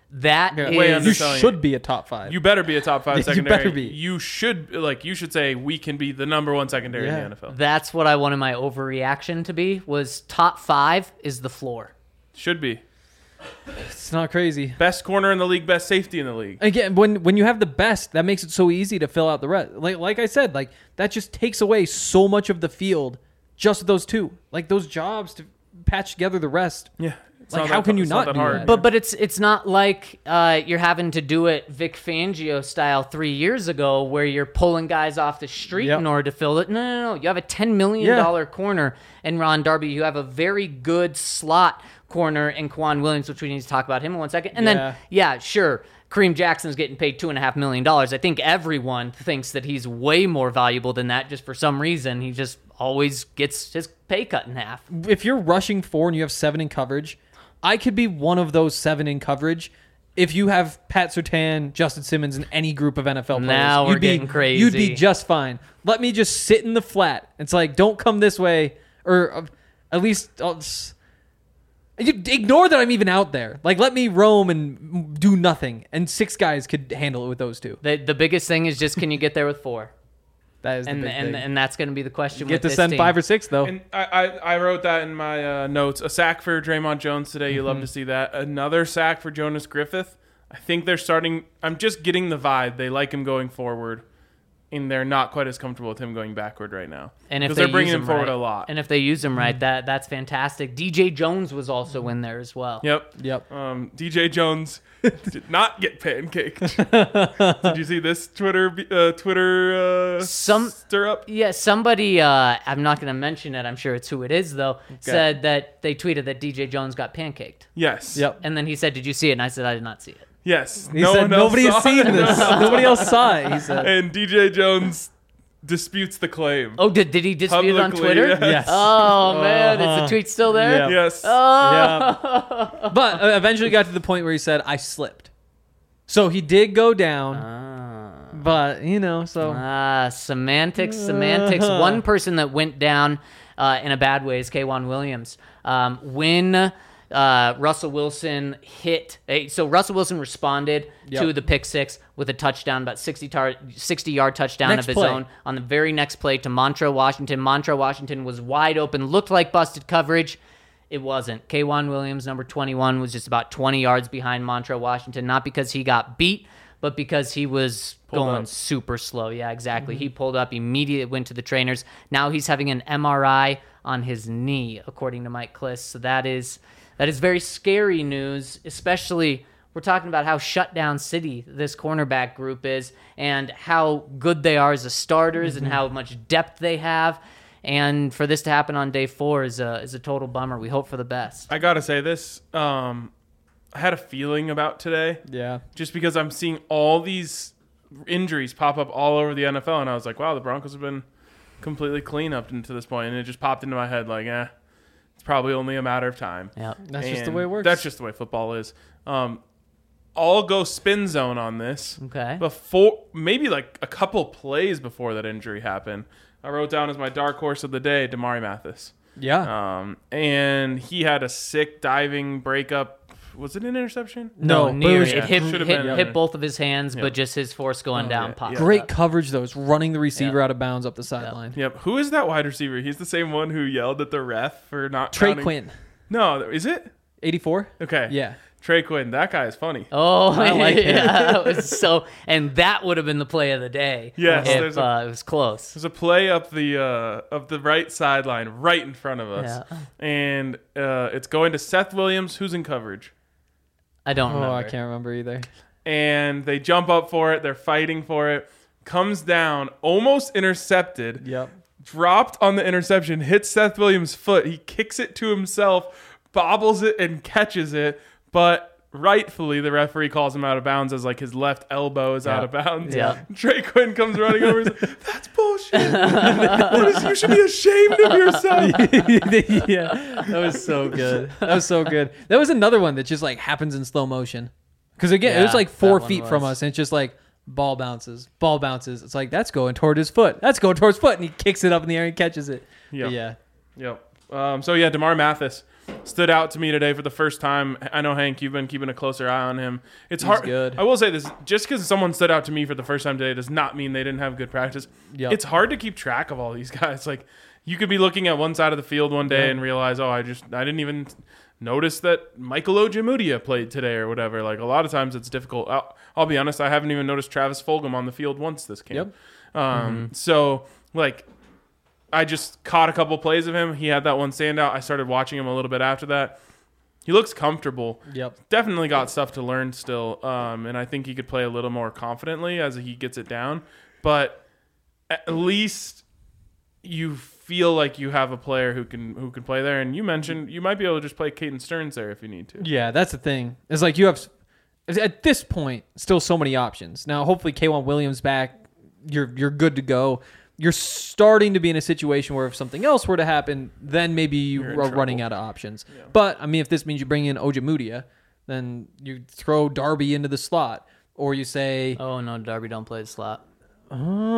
That Yeah. is Way You underselling should be a top 5. You better be a top 5 You secondary. better be. You should say we can be the number 1 secondary Yeah. in the NFL. That's what I wanted my overreaction to be. Was top 5 is the floor. Should be. It's not crazy. Best corner in the league, best safety in the league. Again, when you have the best, that makes it so easy to fill out the rest. Like I said, like that just takes away so much of the field. Just those two, like those jobs to patch together the rest. Yeah. It's Like, not how that- can you it's not that do hard. that? But it's not like you're having to do it Vic Fangio style 3 years ago, where you're pulling guys off the street Yep. in order to fill it. No. You have a $10 million corner in Ron Darby. You have a very good slot corner in Kwan Williams, which we need to talk about him in 1 second. And then, sure, Kareem Jackson's getting paid $2.5 million. I think everyone thinks that he's way more valuable than that. Just for some reason, he just always gets his pay cut in half. If you're rushing 4 and you have 7 in coverage, I could be one of those 7 in coverage. If you have Pat Surtain, Justin Simmons, and any group of NFL players, Now we're getting crazy. You'd be just fine. Let me just sit in the flat. It's like, don't come this way, or at least you ignore that I'm even out there. Like, let me roam and do nothing. And 6 guys could handle it with those 2. The biggest thing is just, can you get there with 4? That is the And big thing. and that's going to be the question. Get with to this send team. 5 or 6 though. And I wrote that in my notes. A sack for Draymond Jones today. You love to see that. Another sack for Jonas Griffith. I think they're starting. I'm just getting the vibe. They like him going forward, and they're not quite as comfortable with him going backward right now. And if because they're they bringing use him forward right, a lot. and if they use him right, that's fantastic. DJ Jones was also in there as well. Yep. Yep. DJ Jones did not get pancaked. Did you see this Twitter stir up? Yeah, somebody, I'm not going to mention it, I'm sure it's who it is, though, said that they tweeted that DJ Jones got pancaked. Yes. Yep. And then he said, did you see it? And I said, I did not see it. Yes. He said nobody has seen this. Nobody else saw it. He said. And DJ Jones disputes the claim. Oh, did he dispute it on Publicly, Twitter? yes. Yes. Oh, man, is the tweet still there? Yeah. Yes. Yeah. But eventually got to the point where he said, I slipped. So he did go down. But, Semantics. One person that went down in a bad way is K'Wan Williams. When Russell Wilson Russell Wilson responded to the pick six with a touchdown, about 60-yard touchdown Next of his play. own on the very next play to Montrell Washington. Montrell Washington was wide open, looked like busted coverage. It wasn't. K'Wan Williams, number 21, was just about 20 yards behind Montrell Washington, not because he got beat, but because he was going super slow. Yeah, exactly. He pulled up, immediately went to the trainers. Now he's having an MRI on his knee, according to Mike Kliss. So that is very scary news, especially we're talking about how shut down city this cornerback group is and how good they are as the starters and how much depth they have. And for this to happen on day 4 is a total bummer. We hope for the best. I gotta say this. I had a feeling about today. Yeah. Just because I'm seeing all these injuries pop up all over the NFL, and I was like, wow, the Broncos have been completely clean up to this point, and it just popped into my head like, it's probably only a matter of time. Yep. That's just the And way it works. That's just the way football is. I'll go spin zone on this. Okay. Before, maybe like a couple plays before that injury happened, I wrote down as my dark horse of the day, Damari Mathis. Yeah. And he had a sick diving breakup. Was it an interception? No, near. but It hit, Should've hit, been. hit both of his hands, but just his force going down yeah, popped. yeah. Great up. coverage, though. It's running the receiver Yeah. out of bounds up the sideline. Yep. Who is that wide receiver? He's the same one who yelled at the ref for not Trey counting. Quinn, No, is it? 84? Okay. Yeah. Trey Quinn. That guy is funny. Oh, I like it. yeah, that was so, and that would have been the play of the day. Yes, if there's it was close. There's a play up the right sideline right in front of us. Yeah. And it's going to Seth Williams, who's in coverage. I don't Oh, remember. I can't remember either. And they jump up for it. They're fighting for it. Comes down, almost intercepted. Yep. Dropped on the interception, hits Seth Williams' foot. He kicks it to himself, bobbles it, and catches it. But rightfully, the referee calls him out of bounds as like his left elbow is out of bounds. Yeah. Trey Quinn comes running over. He's like, that's bullshit. You should be ashamed of yourself. Yeah. That was so good. That was so good. That was another one that just like happens in slow motion. Because again, it was Yeah, like 4 that one feet from was. us, and it's just like ball bounces. It's like, that's going toward his foot. That's going towards his foot. And he kicks it up in the air and catches it. Yep. But yeah. Yep. So yeah, Damar Mathis. stood out to me today for the first time. I know, Hank, you've been keeping a closer eye on him. It's hard. good. I will say this: just because someone stood out to me for the first time today does not mean they didn't have good practice. Yep. It's hard to keep track of all these guys. Like, you could be looking at one side of the field one day and realize, I didn't even notice that Michael Ojemudia played today or whatever. Like, a lot of times it's difficult. I'll be honest, I haven't even noticed Travis Fulgham on the field once this camp. So, like, I just caught a couple plays of him. He had that one standout. I started watching him a little bit after that. He looks comfortable. Yep. Definitely got stuff to learn still. And I think he could play a little more confidently as he gets it down. But at least you feel like you have a player who can play there. And you mentioned you might be able to just play Caden Stearns there if you need to. Yeah, that's the thing. It's like you have, at this point, still so many options. Now, hopefully, K'Wan Williams back, you're good to go. You're starting to be in a situation where if something else were to happen, then maybe you are running out of options. Yeah. But, I mean, if this means you bring in Ojemudia, then you throw Darby into the slot. Or you say... Oh, no, Darby don't play the slot. Oh,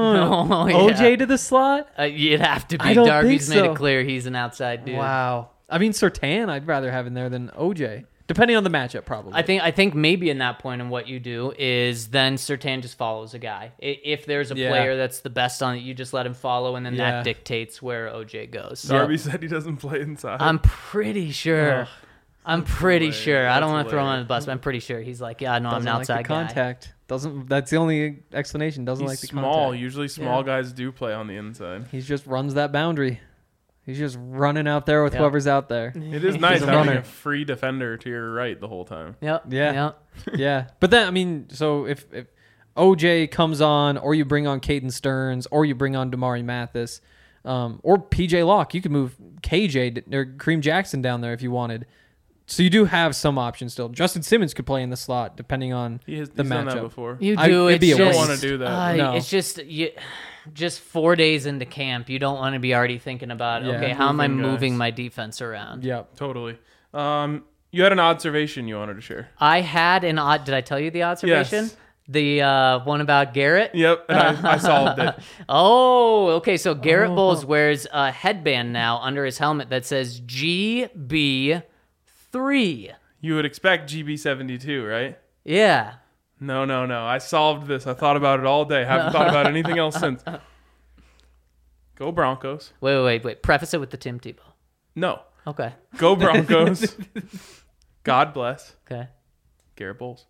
OJ to the slot? You'd have to be. I don't Darby's think so. made it clear he's an outside dude. Wow. I mean, Surtain, I'd rather have in there than OJ. Depending on the matchup, probably. I think maybe in that point, and what you do is then Surtain just follows a guy. If there's a player that's the best on it, you just let him follow, and then that dictates where OJ goes. Darby said he doesn't play inside. I'm pretty sure. I'm pretty sure. I don't want to throw him on the bus, but I'm pretty sure he's like, yeah, no, I'm an outside like the contact. guy. That's the only explanation. Doesn't He's like the small. contact. Usually small guys do play on the inside. He just runs that boundary. He's just running out there with whoever's out there. It is nice having a free defender to your right the whole time. Yep. Yeah. Yeah. But then, I mean, so if OJ comes on, or you bring on Caden Stearns, or you bring on Damari Mathis, or PJ Locke, you could move KJ or Kareem Jackson down there if you wanted. So you do have some options still. Justin Simmons could play in the slot depending on the he's matchup. done that before. You do. You don't want to do that. No. It's just 4 days into camp. You don't want to be already thinking about, okay, how am I moving my defense around? Yep. Totally. You had an observation you wanted to share. I had an odd. Did I tell you the observation? Yes. The one about Garrett? Yep, and I solved it. Oh, okay. So Garrett Bowles wears a headband now under his helmet that says GB3. You would expect GB72, right? Yeah. No. I solved this. I thought about it all day. Haven't thought about anything else since. Go Broncos. Wait. Preface it with the Tim Tebow. No. Okay. Go Broncos. God bless. Okay. Garrett Bowles.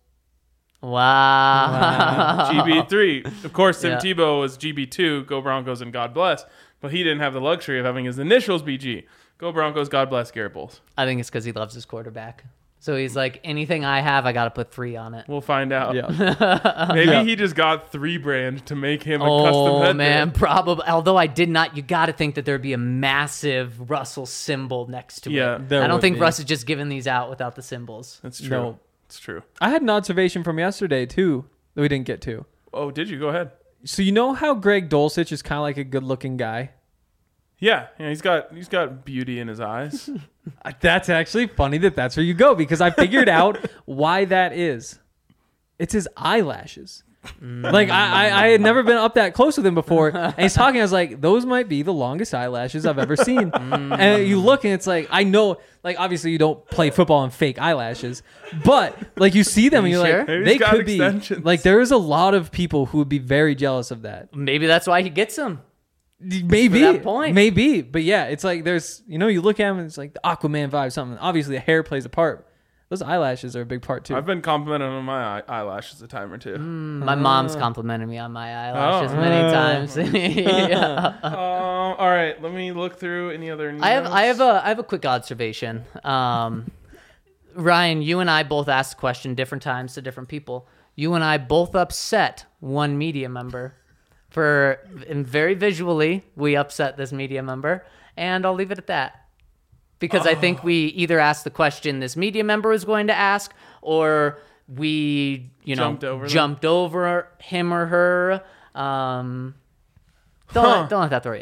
Wow. GB3. Of course, Tim Yeah. Tebow was GB2, Go Broncos and God bless. But he didn't have the luxury of having his initials be G. Go Broncos, God bless, Garrett Bowles. I think it's because he loves his quarterback. So he's like, anything I have, I got to put 3 on it. We'll find out. Yeah. Maybe he just got 3 brand to make him a custom Oh, headband. man. Probably. Although I did not, you got to think that there'd be a massive Russell symbol next to Yeah, it. there I don't would think be. Russ is just giving these out without the symbols. That's true. No. It's true. I had an observation from yesterday, too, that we didn't get to. Oh, did you? Go ahead. So you know how Greg Dulcich is kind of like a good-looking guy? Yeah, he's got beauty in his eyes. That's actually funny that's where you go, because I figured out why that is. It's his eyelashes. Like, I had never been up that close with him before, and he's talking, I was like, those might be the longest eyelashes I've ever seen. And you look, and it's like, I know, like, obviously you don't play football on fake eyelashes, but, like, you see them, and you're sure? like, Maybe they he's got could be. extensions. Like, there is a lot of people who would be very jealous of that. Maybe that's why he gets them. Maybe. that point. Maybe. But yeah, it's like there's, you look at him and it's like the Aquaman vibe, something. Obviously, the hair plays a part. Those eyelashes are a big part too. I've been complimented on my eyelashes a time or two. My mom's complimented me on my eyelashes many times. Yeah. All right, let me look through any other news. I have a quick observation. Ryan, you and I both asked the question different times to different people. You and I both upset one media member. And very visually, we upset this media member, and I'll leave it at that. Because I think we either asked the question this media member was going to ask, or we, Jumped over them. jumped over him or her. Don't let that throw you off.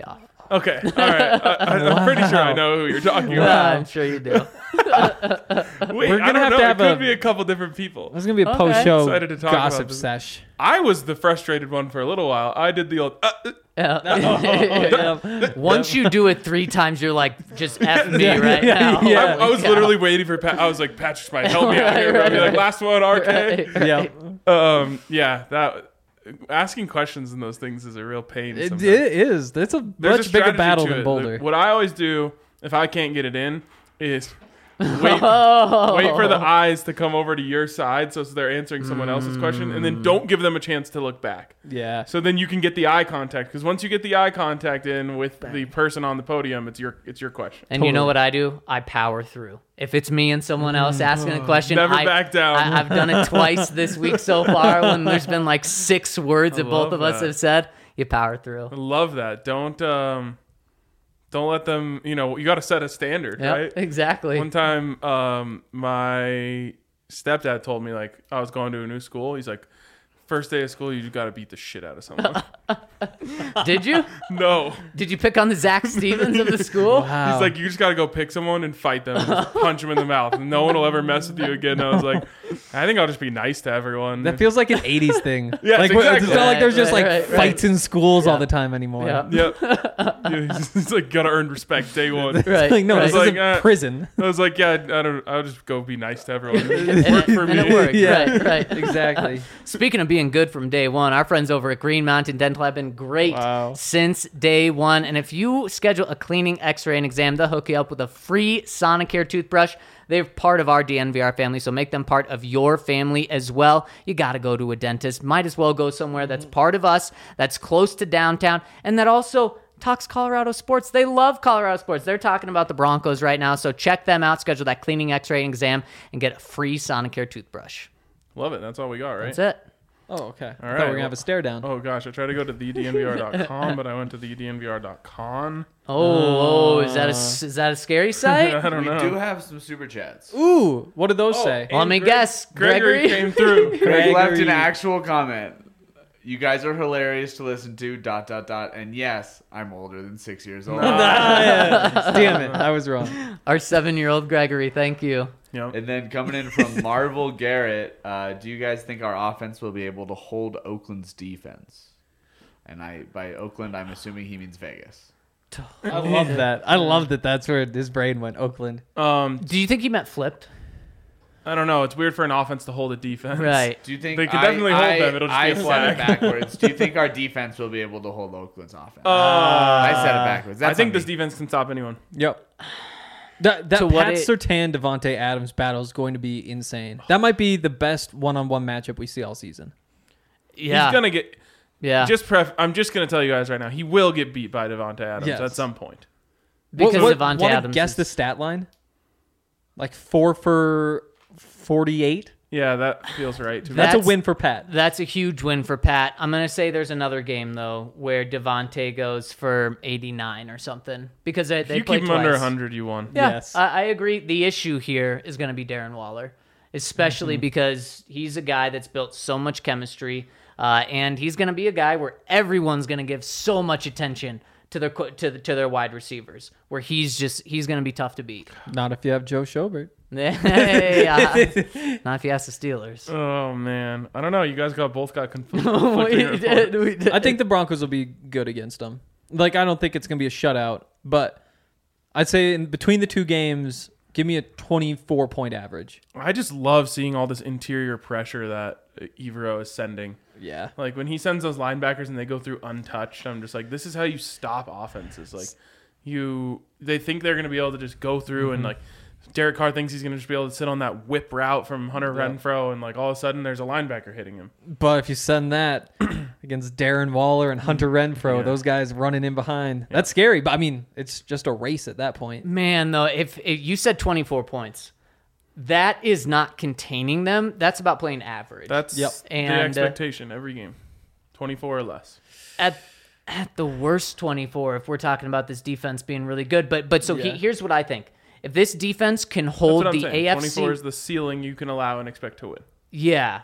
Okay, all right. I'm pretty sure I know who you're talking Yeah, about. I'm sure you do. Wait, We're I gonna don't have know. to have It could a- be a couple different people. There's gonna be a Okay. post-show Excited to talk about gossip this. sesh. I was the frustrated one for a little while. I did the old. Yeah. Once you do it 3 times, you're like, just F me right now. yeah. I was literally waiting for Pat. I was like, Pat, just might help me out here. Bro. I'd be like, last one, RK. Yeah, Yeah, that asking questions in those things is a real pain. it sometimes. is. That's a There's much a bigger strategy battle to than it. Boulder. What I always do if I can't get it in is wait Oh. for the eyes to come over to your side so they're answering someone else's question, and then don't give them a chance to look back. Yeah. So then you can get the eye contact, because once you get the eye contact in with the person on the podium, it's your question. And you know what I do? I power through. If it's me and someone else asking a question, Never back down. I've done it twice this week so far when there's been like 6 words that both love of us that. have said. You power through. I love that. Don't let them. You got to set a standard, Yep, right? exactly. One time, my stepdad told me, like, I was going to a new school. He's like, first day of school, you got to beat the shit out of someone. Did you? No. Did you pick on the Zach Stevens of the school? Wow. He's like, you just got to go pick someone and fight them, and just punch them in the mouth, and no one will ever mess with you again. And I was like, I think I'll just be nice to everyone. That feels like an '80s thing. Yes, like exactly. it's not like there's just Right, like right, fights in schools all the time anymore. Yeah. Yep. Yeah, he's like, gotta earn respect day one. Right. Like no, right. this Like, isn't prison. I was like, yeah, I'll just go be nice to everyone. Work for me. And it worked. Yeah. Right. Exactly. Speaking of being good from day one, our friends over at Green Mountain Dental have been great Wow. since day one. And if you schedule a cleaning, x-ray, and exam, they'll hook you up with a free Sonicare toothbrush. They're part of our DNVR family, so make them part of your family as well. You got to go to a dentist. Might as well go somewhere that's part of us, that's close to downtown, and that also talks Colorado sports. They love Colorado sports. They're talking about the Broncos right now, so check them out. Schedule that cleaning, x-ray, and exam, and get a free Sonicare toothbrush. Love it. That's all we got, right? That's it. Oh, okay. I thought we right. were gonna have a stare down. Oh gosh, I tried to go to thednvr.com, but I went to thednvr.con. Is that a scary site? I don't We know. do have some super chats. Ooh, what did those say? Let me guess. Gregory Gregory? came through. Greg left Gregory. an actual comment. You guys are hilarious to listen to. ... And yes, I'm older than 6 years old. Damn it, I was wrong. Our 7-year-old Gregory, thank you. Yep. And then coming in from Marvel Garrett, do you guys think our offense will be able to hold Oakland's defense? And by Oakland, I'm assuming he means Vegas. I love that. I love that. That's where his brain went. Oakland. Do you think he meant flipped? I don't know. It's weird for an offense to hold a defense. Right. Do you think They could definitely hold them. It'll just be a said flag. it backwards. Do you think our defense will be able to hold Oakland's offense? I said it backwards. That's I think on this me. defense can stop anyone. Yep. That So what Pat it- Surtain Devontae Adams battle is going to be insane. That might be the best one-on-one matchup we see all season. Yeah. He's gonna get. yeah. I'm just gonna tell you guys right now. He will get beat by Devontae Adams Yes. at some point. because Devontae wanna Adams. guess is- the stat line? Like 4 for 48. Yeah, that feels right to me. That's a That's- win for Pat. That's a huge win for Pat. I'm going to say there's another game, though, where Devontae goes for 89 or something. Because they If you play keep him twice. under 100, you won. Yeah, Yes. I agree. The issue here is going to be Darren Waller, especially because he's a guy that's built so much chemistry, and he's going to be a guy where everyone's going to give so much attention to their wide receivers, where he's going to be tough to beat. Not if you have Joe Schobert. Hey, not if you ask the Steelers. Oh man, I don't know. You guys both got we conflicting did. We did. I think the Broncos will be good against them. Like, I don't think it's going to be a shutout, but I'd say in between the two games, give me a 24-point average. I just love seeing all this interior pressure that Evero is sending. Yeah. Like when he sends those linebackers and they go through untouched, I'm just like, this is how you stop offenses. Like they think they're going to be able to just go through and like Derek Carr thinks he's going to just be able to sit on that whip route from Hunter Renfrow and like all of a sudden there's a linebacker hitting him. But if you send that against Darren Waller and Hunter Renfro, those guys running in behind, that's scary. But I mean, it's just a race at that point. Man, though, if you said 24 points, that is not containing them. That's about playing average. That's the And, expectation every game. 24 or less. at the worst 24 if we're talking about this defense being really good. But so here's what I think. If this defense can That's hold what I'm the saying. AFC, 24 is the ceiling you can allow and expect to win. yeah,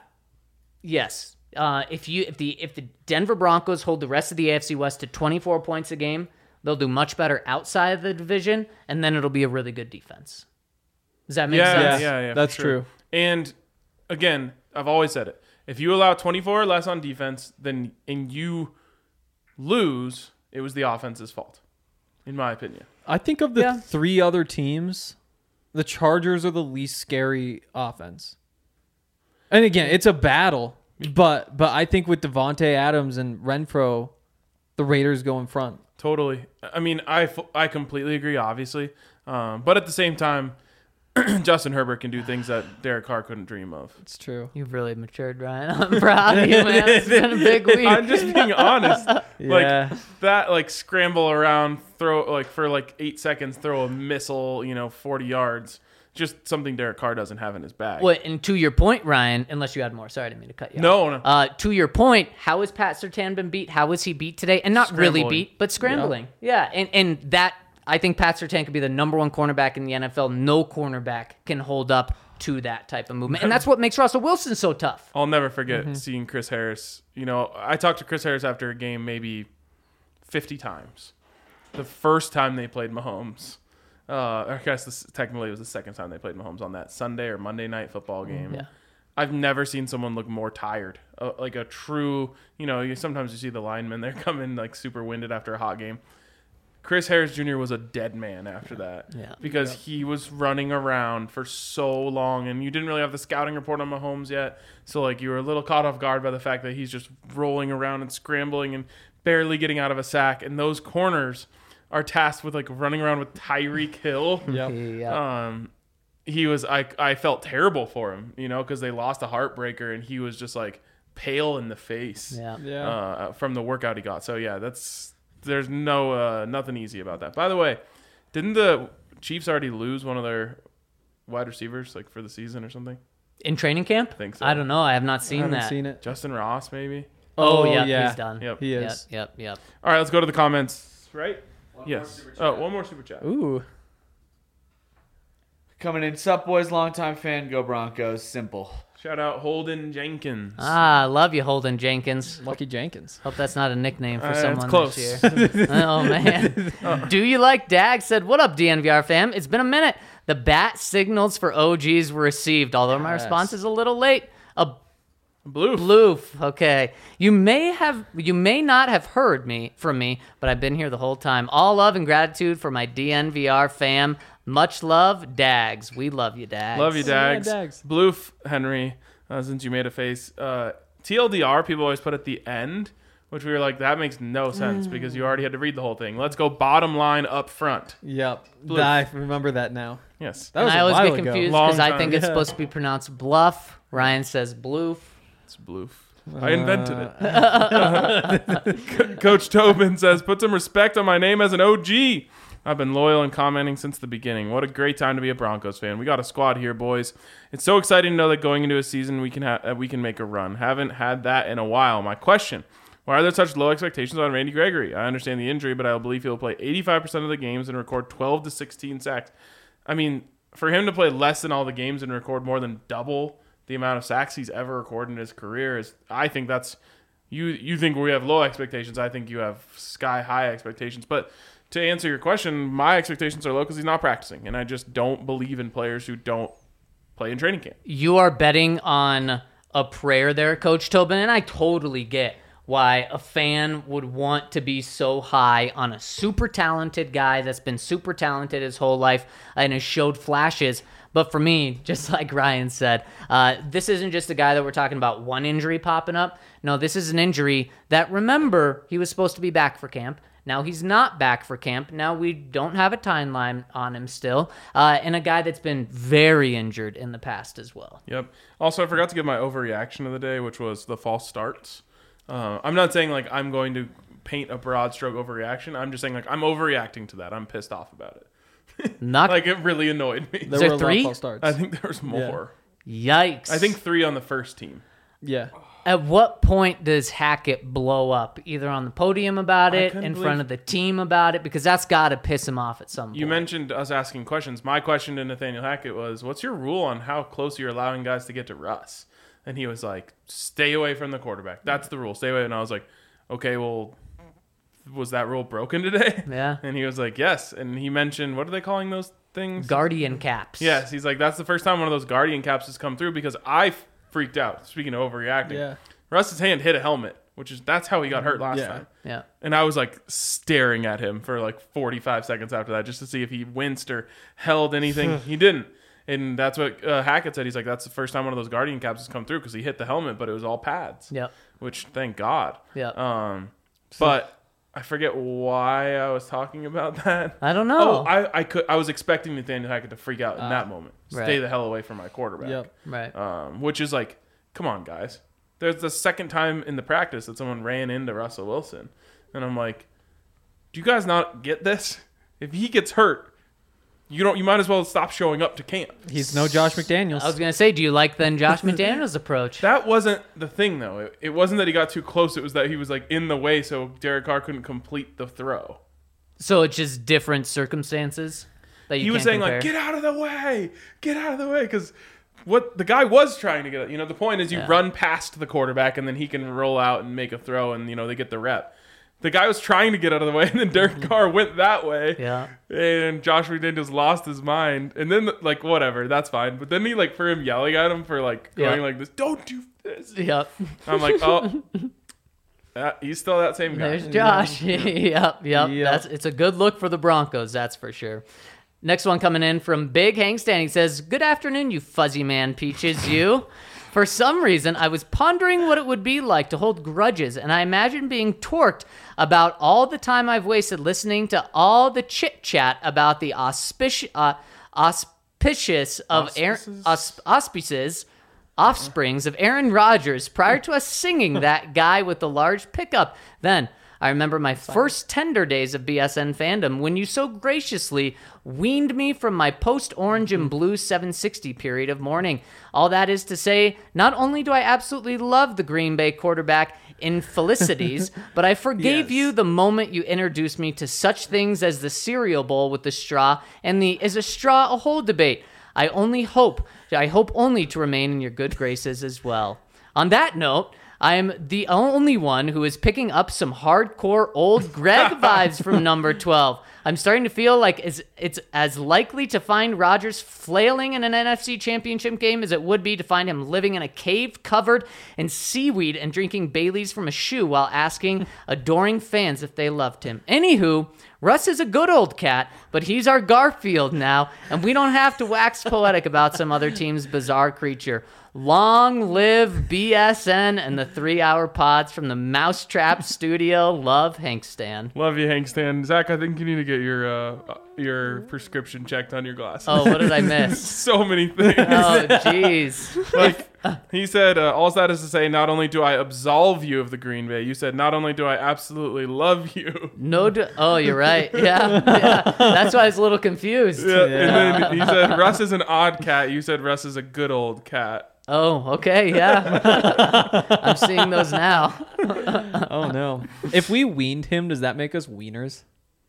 yes. If the Denver Broncos hold the rest of the AFC West to 24 points a game, They'll do much better outside of the division, and then it'll be a really good defense. Does that make Yeah, sense? yeah, That's for sure. true. And again, I've always said it. If you allow 24 or less on defense, and you lose, it was the offense's fault, in my opinion. I think of the Yeah. 3 other teams, the Chargers are the least scary offense. And again, it's a battle, but I think with Devontae Adams and Renfro, the Raiders go in front. Totally. I mean, I completely agree, obviously. But at the same time, Justin Herbert can do things that Derek Carr couldn't dream of. It's true. You've really matured, Ryan. I'm proud of you, man. It's been a big week. I'm just being honest. Yeah. Like that, like scramble around, throw like for like 8 seconds, throw a missile, 40 yards. Just something Derek Carr doesn't have in his bag. Well, and to your point, Ryan, unless you had more. Sorry, I didn't mean to cut you off. No. To your point, how has Pat Surtain been beat? How was he beat today? And not really Scrambling. beat, but scrambling. Yeah, and that, I think Pat Surtain could be the number 1 cornerback in the NFL. No cornerback can hold up to that type of movement. And that's what makes Russell Wilson so tough. I'll never forget seeing Chris Harris. I talked to Chris Harris after a game maybe 50 times. The first time they played Mahomes. I guess technically it was the second time they played Mahomes on that Sunday or Monday night football game. Yeah. I've never seen someone look more tired. Like a true, sometimes you see the linemen, they're coming like super winded after a hot game. Chris Harris Jr. was a dead man after that because he was running around for so long, and you didn't really have the scouting report on Mahomes yet. So like you were a little caught off guard by the fact that he's just rolling around and scrambling and barely getting out of a sack. And those corners are tasked with like running around with Tyreek Hill. Yeah. I felt terrible for him, because they lost a heartbreaker, and he was just like pale in the face from the workout he got. So yeah, there's nothing easy about that. By the way, didn't the Chiefs already lose one of their wide receivers like for the season or something? In training camp? I think so. I don't know. I have not I seen haven't that. seen it. Justin Ross, maybe. Oh, yeah, he's done. Yep. He is. Yep. All right, let's go to the comments. Right? Yes. One more super chat. Ooh. Coming in, sup boys, longtime fan, go Broncos. Simple. Shout out Holden Jenkins. I love you, Holden Jenkins. Lucky Jenkins. Hope that's not a nickname for It's someone close. this year. Oh, man. Do you like Dag? Said, what up, DNVR fam? It's been a minute. The bat signals for OGs were received, although my response is a little late. A Bloof. Okay. You may not have heard from me, but I've been here the whole time. All love and gratitude for my DNVR fam. Much love, Dags. We love you, Dags. Love you, Dags. Yeah, Dags. Bloof, Henry, since you made a face. TLDR, people always put at the end, which we were like, that makes no sense because you already had to read the whole thing. Let's go bottom line up front. Yep. Bloof. I remember that now. Yes. That was I a always while get ago. confused Long because I time. think it's Yeah. supposed to be pronounced bluff. Ryan says bloof. It's Bloof. I invented it. Coach Tobin says, put some respect on my name as an OG. I've been loyal and commenting since the beginning. What a great time to be a Broncos fan. We got a squad here, boys. It's so exciting to know that going into a season we can make a run. Haven't had that in a while. My question, why are there such low expectations on Randy Gregory? I understand the injury, but I believe he'll play 85% of the games and record 12 to 16 sacks. I mean, for him to play less than all the games and record more than double the amount of sacks he's ever recorded in his career I think that's you think we have low expectations. I think you have sky high expectations. But to answer your question, my expectations are low because he's not practicing, and I just don't believe in players who don't play in training camp. You are betting on a prayer there, Coach Tobin, and I totally get why a fan would want to be so high on a super talented guy that's been super talented his whole life and has showed flashes. But for me, just like Ryan said, this isn't just a guy that we're talking about one injury popping up. No, this is an injury that, remember, he was supposed to be back for camp. Now he's not back for camp. Now we don't have a timeline on him still. And a guy that's been very injured in the past as well. Yep. Also, I forgot to give my overreaction of the day, which was the false starts. I'm not saying like I'm going to paint a broad stroke overreaction. I'm just saying like I'm overreacting to that. I'm pissed off about it. Not Like it really annoyed me. There there were a lot three? of false starts. I think there was more. Yikes. I think 3 on the first team. Yeah. At what point does Hackett blow up? Either on the podium about I it, couldn't in believe- front of the team about it, because that's got to piss him off at some point. You mentioned us asking questions. My question to Nathaniel Hackett was, what's your rule on how close you're allowing guys to get to Russ? And he was like, stay away from the quarterback. That's the rule. Stay away. And I was like, okay, well, was that rule broken today? Yeah. And he was like, yes. And he mentioned, what are they calling those things? Guardian caps. Yes. He's like, that's the first time one of those Guardian caps has come through because I freaked out. Speaking of overreacting. Yeah. Russ's hand hit a helmet, that's how he got hurt last time. Yeah. And I was like staring at him for like 45 seconds after that just to see if he winced or held anything. He didn't. And that's what Hackett said. He's like, that's the first time one of those Guardian caps has come through because he hit the helmet, but it was all pads. Yep. Which, thank God. Yep. But I forget why I was talking about that. I don't know. Oh, I was expecting Nathaniel Hackett to freak out in that moment. Right. Stay the hell away from my quarterback. Yep. Right. Which is like, come on, guys. There's the second time in the practice that someone ran into Russell Wilson. And I'm like, do you guys not get this? If he gets hurt, you might as well stop showing up to camp. He's no Josh McDaniels. I was going to say, do you like then Josh McDaniels' approach? That wasn't the thing, though. It wasn't that he got too close. It was that he was like in the way, so Derek Carr couldn't complete the throw. So it's just different circumstances that you He was can't saying compare? like, get out of the way, because what the guy was trying to get at, the point is you run past the quarterback and then he can roll out and make a throw and they get the rep. The guy was trying to get out of the way, and then Derek Carr went that way. Yeah. And Josh McDaniels lost his mind. And then, like, whatever, that's fine. But then he, like, for him yelling at him for, like, going like this, don't do this. Yep. I'm like, oh, he's still that same guy. There's Josh. Yep. It's a good look for the Broncos, that's for sure. Next one coming in from Big Hank Stan. He says, good afternoon, you fuzzy man peaches, you. For some reason, I was pondering what it would be like to hold grudges, and I imagine being torqued about all the time I've wasted listening to all the chit-chat about the auspices offsprings of Aaron Rodgers prior to us singing that guy with the large pickup. Then I remember my first tender days of BSN fandom when you so graciously weaned me from my post-orange and blue 760 period of mourning. All that is to say, not only do I absolutely love the Green Bay quarterback infelicities, but I forgave you the moment you introduced me to such things as the cereal bowl with the straw and the is a straw a hole debate. I hope only to remain in your good graces as well. On that note, I am the only one who is picking up some hardcore old Greg vibes from number 12. I'm starting to feel like it's as likely to find Rodgers flailing in an NFC championship game as it would be to find him living in a cave covered in seaweed and drinking Baileys from a shoe while asking adoring fans if they loved him. Anywho, Russ is a good old cat, but he's our Garfield now, and we don't have to wax poetic about some other team's bizarre creature. Long live BSN and the 3-hour pods from the Mousetrap Studio. Love, Hank Stan. Love you, Hank Stan. Zach, I think you need to get your prescription checked on your glasses. Oh, what did I miss? So many things. Oh, jeez. Like, he said, all that is to say, not only do I absolve you of the Green Bay, you said, not only do I absolutely love you. Oh, you're right. Yeah. That's why I was a little confused. Yeah. And then he said, Russ is an odd cat. You said, Russ is a good old cat. Oh, okay, yeah. I'm seeing those now. Oh, no. If we weaned him, does that make us wieners?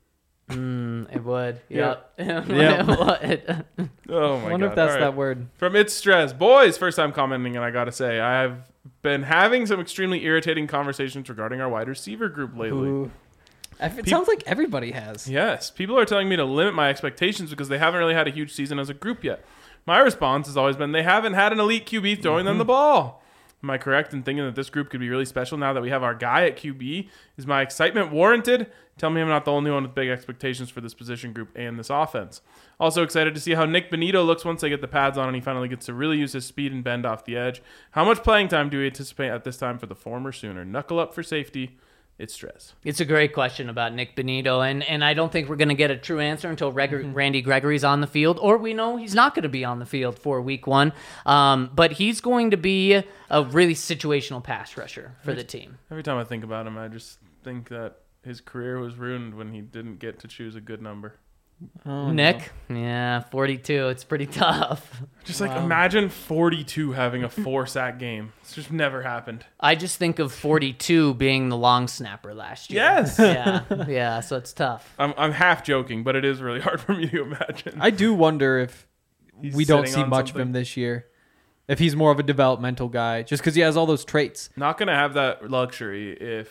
It would. Yep. Yep. It would. Oh, my God. I wonder if that's All right. that word. From It's Stress. Boys, first time commenting, and I got to say, I have been having some extremely irritating conversations regarding our wide receiver group lately. Ooh. It sounds like everybody has. Yes. People are telling me to limit my expectations because they haven't really had a huge season as a group yet. My response has always been they haven't had an elite QB throwing them the ball. Am I correct in thinking that this group could be really special now that we have our guy at QB? Is my excitement warranted? Tell me I'm not the only one with big expectations for this position group and this offense. Also excited to see how Nick Benito looks once they get the pads on and he finally gets to really use his speed and bend off the edge. How much playing time do we anticipate at this time for the former Sooner? Knuckle up for safety. It's Stress. It's a great question about Nick Benito, and I don't think we're going to get a true answer until Randy Gregory's on the field, or we know he's not going to be on the field for week 1. But he's going to be a really situational pass rusher for the team. Every time I think about him, I just think that his career was ruined when he didn't get to choose a good number. Oh, Nick? No. Yeah, 42. It's pretty tough. Just like imagine 42 having a 4-sack game. It's just never happened. I just think of 42 being the long snapper last year. Yes. Yeah, so it's tough. I'm half joking, but it is really hard for me to imagine. I do wonder if He's we don't sitting see on much something. of him this year. If he's more of a developmental guy, just because he has all those traits. Not going to have that luxury if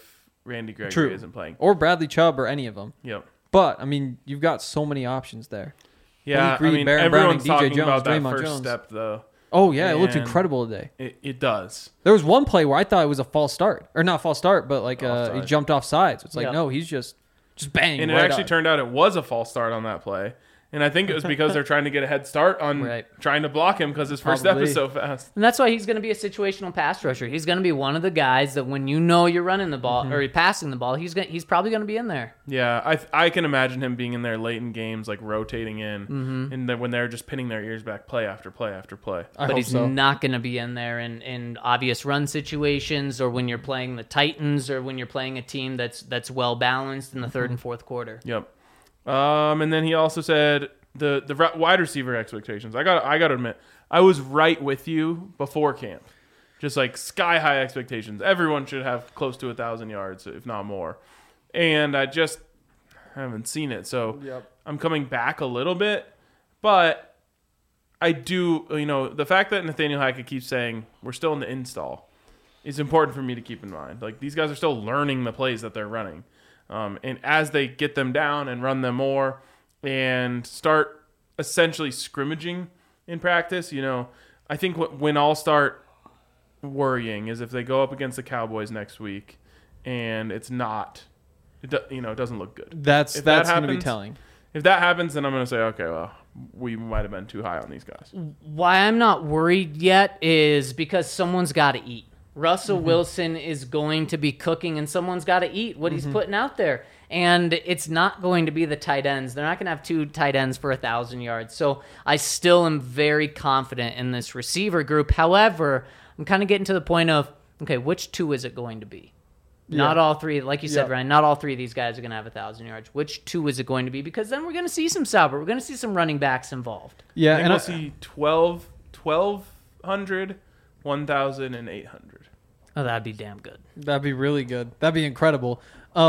Randy Gregory True. isn't playing. Or Bradley Chubb or any of them. Yep. But, I mean, you've got so many options there. Yeah, Malik Reed, I mean, Baron everyone's Browning, DJ talking Jones, about that Draymond first Jones. step, though. Oh, yeah, it looked And incredible today. It does. There was one play where I thought it was a false start. Or not false start, but like he Offside. jumped off sides. It's like, Yeah. no, he's just bang. And it right actually on. turned out it was a false start on that play. And I think it was because they're trying to get a head start on Right. trying to block him because his first step Probably. is so fast. And that's why he's going to be a situational pass rusher. He's going to be one of the guys that when you know you're running the ball or you're passing the ball, he's probably going to be in there. Yeah, I can imagine him being in there late in games, like rotating in, and then when they're just pinning their ears back, play after play after play. I But hope he's so. not going to be in there in obvious run situations or when you're playing the Titans or when you're playing a team that's well balanced in the third and fourth quarter. Yep. And then he also said the wide receiver expectations. I got to admit, I was right with you before camp. Just like sky high expectations. Everyone should have close to 1,000 yards, if not more. And I just haven't seen it, so I'm coming back a little bit. But I do, the fact that Nathaniel Hackett keeps saying we're still in the install is important for me to keep in mind. Like, these guys are still learning the plays that they're running. And as they get them down and run them more and start essentially scrimmaging in practice, I think when I'll start worrying is if they go up against the Cowboys next week and it doesn't look good. That's If going that to be happens- telling. If that happens, then I'm going to say, okay, well, we might have been too high on these guys. Why I'm not worried yet is because someone's got to eat. Russell Wilson is going to be cooking, and someone's got to eat what he's putting out there. And it's not going to be the tight ends. They're not going to have two tight ends for 1,000 yards. So I still am very confident in this receiver group. However, I'm kind of getting to the point of, okay, which two is it going to be? Not all three, like you said, Yeah. Ryan, not all three of these guys are going to have 1,000 yards. Which two is it going to be? Because then we're going to see some Sauber. We're going to see some running backs involved. Yeah, I think and we'll see 1,200, 1,000, and 800. Oh, that'd be damn good. that'd be really good. That'd be incredible.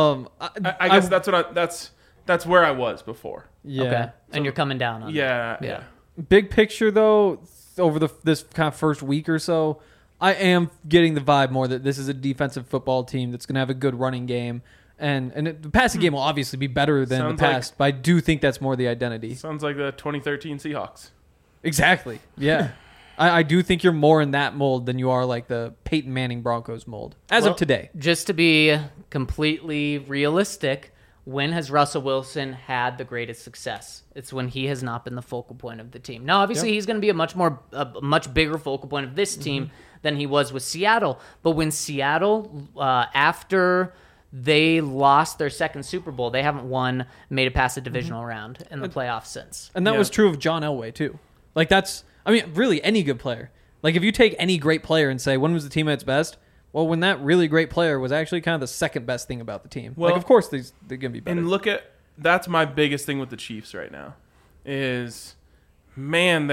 I guess that's where I was before. Yeah. Okay. And you're coming down on that. Yeah. Big picture, though, over this kind of first week or so, I am getting the vibe more that this is a defensive football team that's going to have a good running game. And the passing game will obviously be better than Sounds the past, but I do think that's more the identity. Sounds like the 2013 Seahawks. Exactly. Yeah. I do think you're more in that mold than you are like the Peyton Manning Broncos mold as Well, of today. Just to be completely realistic, when has Russell Wilson had the greatest success? It's when he has not been the focal point of the team. Now, obviously, he's going to be a much bigger focal point of this team than he was with Seattle. But when Seattle, after they lost their second Super Bowl, they haven't made it past the divisional round in the playoffs since. And that Yeah. was true of John Elway, too. Like, really any good player. Like, if you take any great player and say, when was the team at its best? Well, when that really great player was actually kind of the second best thing about the team. Well, of course, they're going to be better. And that's my biggest thing with the Chiefs right now is, man,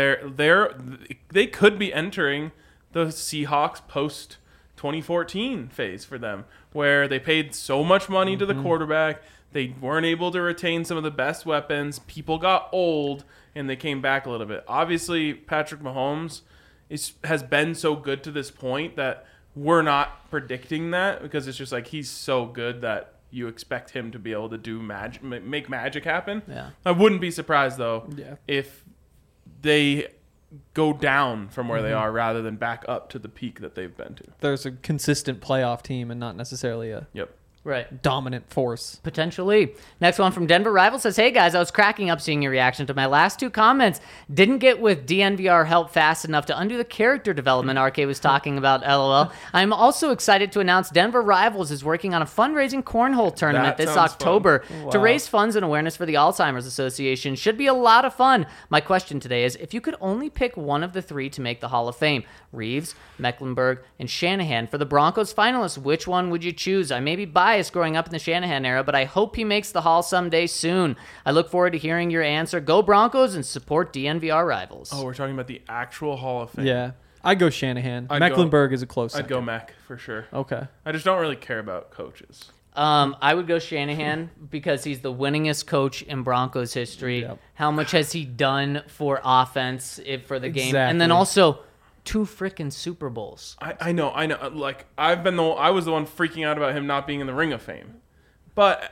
they could be entering the Seahawks post 2014 phase for them, where they paid so much money to the quarterback, they weren't able to retain some of the best weapons, people got old, and they came back a little bit. Obviously, Patrick Mahomes has been so good to this point that we're not predicting that, because it's just like he's so good that you expect him to be able to do make magic happen. Yeah. I wouldn't be surprised though Yeah. if they go down from where they are rather than back up to the peak that they've been to. There's a consistent playoff team and not necessarily a Yep. Right. dominant force. Potentially. Next one from Denver Rival says, hey guys, I was cracking up seeing your reaction to my last two comments. Didn't get with DNVR help fast enough to undo the character development RK was talking about, LOL. I'm also excited to announce Denver Rivals is working on a fundraising cornhole tournament That this sounds October fun. to Wow. raise funds and awareness for the Alzheimer's Association. Should be a lot of fun. My question today is, if you could only pick one of the three to make the Hall of Fame, Reeves, Mecklenburg, and Shanahan, for the Broncos finalists, which one would you choose? I may be biased growing up in the Shanahan era, but I hope he makes the Hall someday soon. I look forward to hearing your answer. Go Broncos and support DNVR Rivals. Oh, we're talking about the actual Hall of Fame. Yeah. I'd go Shanahan. I'd Mecklenburg is a close I'd second. go Mac for sure. Okay. I just don't really care about coaches. I would go Shanahan because he's the winningest coach in Broncos history. Yep. How much has he done for offense for the game? And then Exactly. also, 2 freaking Super Bowls. I know. Like I was the one freaking out about him not being in the Ring of Fame, but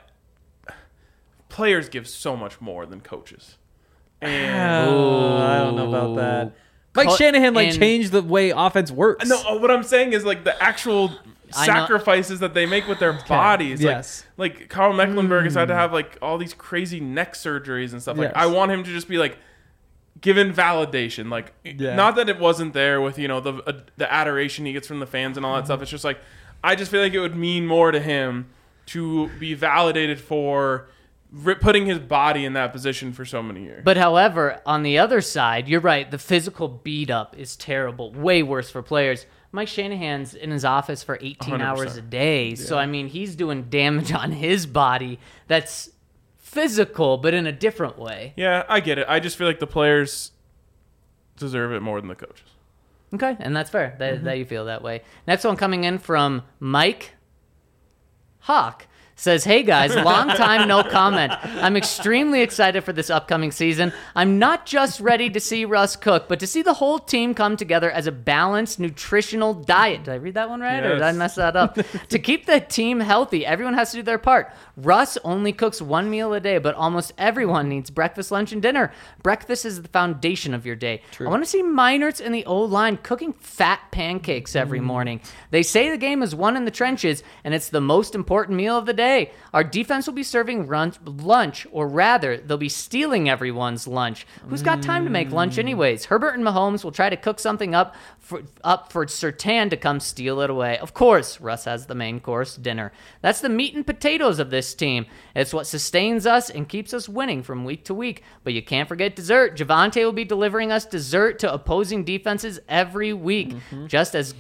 players give so much more than coaches. And I don't know about that. Mike Shanahan changed the way offense works. no, what I'm saying is like the actual sacrifices that they make with their bodies. Yes. Like Carl Mecklenburg has had to have like all these crazy neck surgeries and stuff. Like Yes. I want him to just be like given validation. Like not that it wasn't there with the adoration he gets from the fans and all that stuff. It's just like I just feel like it would mean more to him to be validated for putting his body in that position for so many years. But however, on the other side, you're right. The physical beat up is terrible. Way worse for players. Mike Shanahan's in his office for 18 hours a day. Yeah. So, I mean, he's doing damage on his body that's physical, but in a different way. Yeah, I get it. I just feel like the players deserve it more than the coaches. Okay, and that's fair that you feel that way. Next one coming in from Mike Hawk. Says, hey guys, long time no comment. I'm extremely excited for this upcoming season. I'm not just ready to see Russ cook, but to see the whole team come together as a balanced, nutritional diet. Did I read that one right? Yes. Or did I mess that up? To keep the team healthy, everyone has to do their part. Russ only cooks 1 meal a day, but almost everyone needs breakfast, lunch, and dinner. Breakfast is the foundation of your day. True. I want to see Meinertz and the O-line cooking fat pancakes every morning. They say the game is won in the trenches, and it's the most important meal of the day. Our defense will be serving lunch, or rather, they'll be stealing everyone's lunch. Who's got time to make lunch anyways? Herbert and Mahomes will try to cook something up for Surtain to come steal it away. Of course, Russ has the main course, dinner. That's the meat and potatoes of this team. It's what sustains us and keeps us winning from week to week. But you can't forget dessert. Javonte will be delivering us dessert to opposing defenses every week. Just as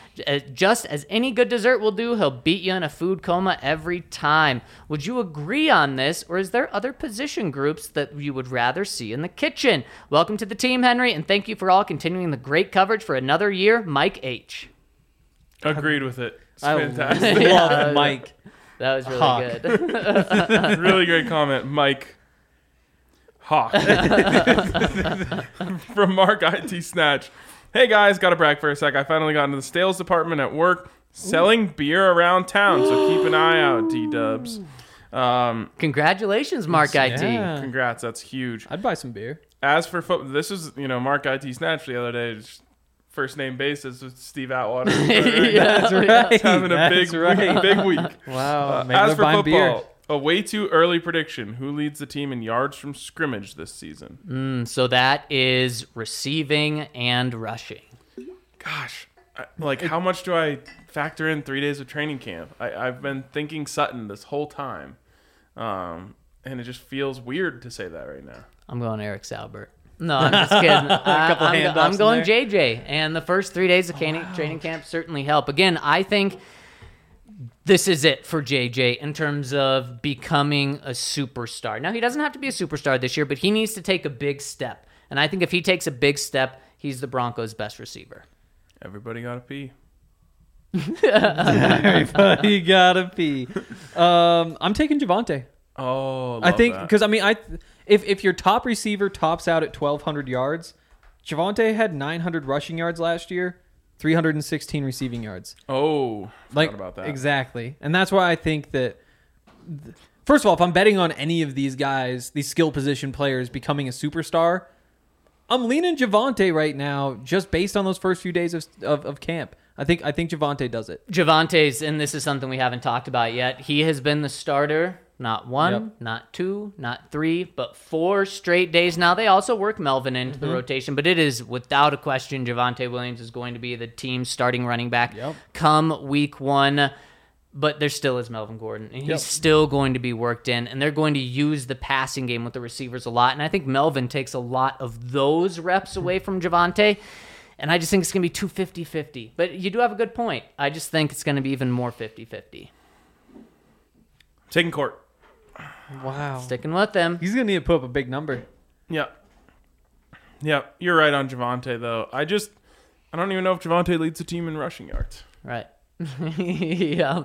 any good dessert will do, he'll beat you in a food coma every time. Would you agree on this, or is there other position groups that you would rather see in the kitchen? Welcome to the team, Henry, and thank you for all continuing the great coverage for another year, Mike H. Agreed with it. It's fantastic. I love Mike. That was really good. Really great comment, Mike Hawk. From Mark IT Snatch. Hey guys, gotta brag for a sec. I finally got into the sales department at work, selling beer around town, so keep an eye out, D-dubs. Congratulations, Mark IT. Yeah. Congrats, that's huge. I'd buy some beer. As for football, this is, Mark IT Snatch the other day, first name basis with Steve Atwater. That's right. He's having a big week. Wow. As for football, beer. A way too early prediction. Who leads the team in yards from scrimmage this season? So that is receiving and rushing. Gosh, how much do I factor in 3 days of training camp? I've been thinking Sutton this whole time, and it just feels weird to say that right now. I'm going Eric Saubert. No, I'm just kidding. I'm going JJ, and the first 3 days of training camp certainly help. Again, I think this is it for JJ in terms of becoming a superstar. Now, he doesn't have to be a superstar this year, but he needs to take a big step. And I think if he takes a big step, he's the Broncos' best receiver. Everybody gotta pee. Everybody gotta pee. I'm taking Javonte. Oh, I think because if your top receiver tops out at 1,200 yards, Javonte had 900 rushing yards last year, 316 receiving yards. Oh, forgot about that. Exactly, and that's why I think that. First of all, if I'm betting on any of these guys, these skill position players becoming a superstar, I'm leaning Javonte right now, just based on those first few days of camp. I think Javonte does it. Javonte's, and this is something we haven't talked about yet. He has been the starter. Not one, not two, not three, but 4 straight days now. They also work Melvin into the rotation, but it is without a question Javonte Williams is going to be the team's starting running back come week 1. But there still is Melvin Gordon, and he's still going to be worked in, and they're going to use the passing game with the receivers a lot. And I think Melvin takes a lot of those reps away from Javonte, and I just think it's going to be too 50-50. But you do have a good point. I just think it's going to be even more 50-50. Taking Court. Wow. Sticking with them. He's going to need to put up a big number. Yeah. Yeah, you're right on Javonte, though. I don't even know if Javonte leads the team in rushing yards. Right. Yeah.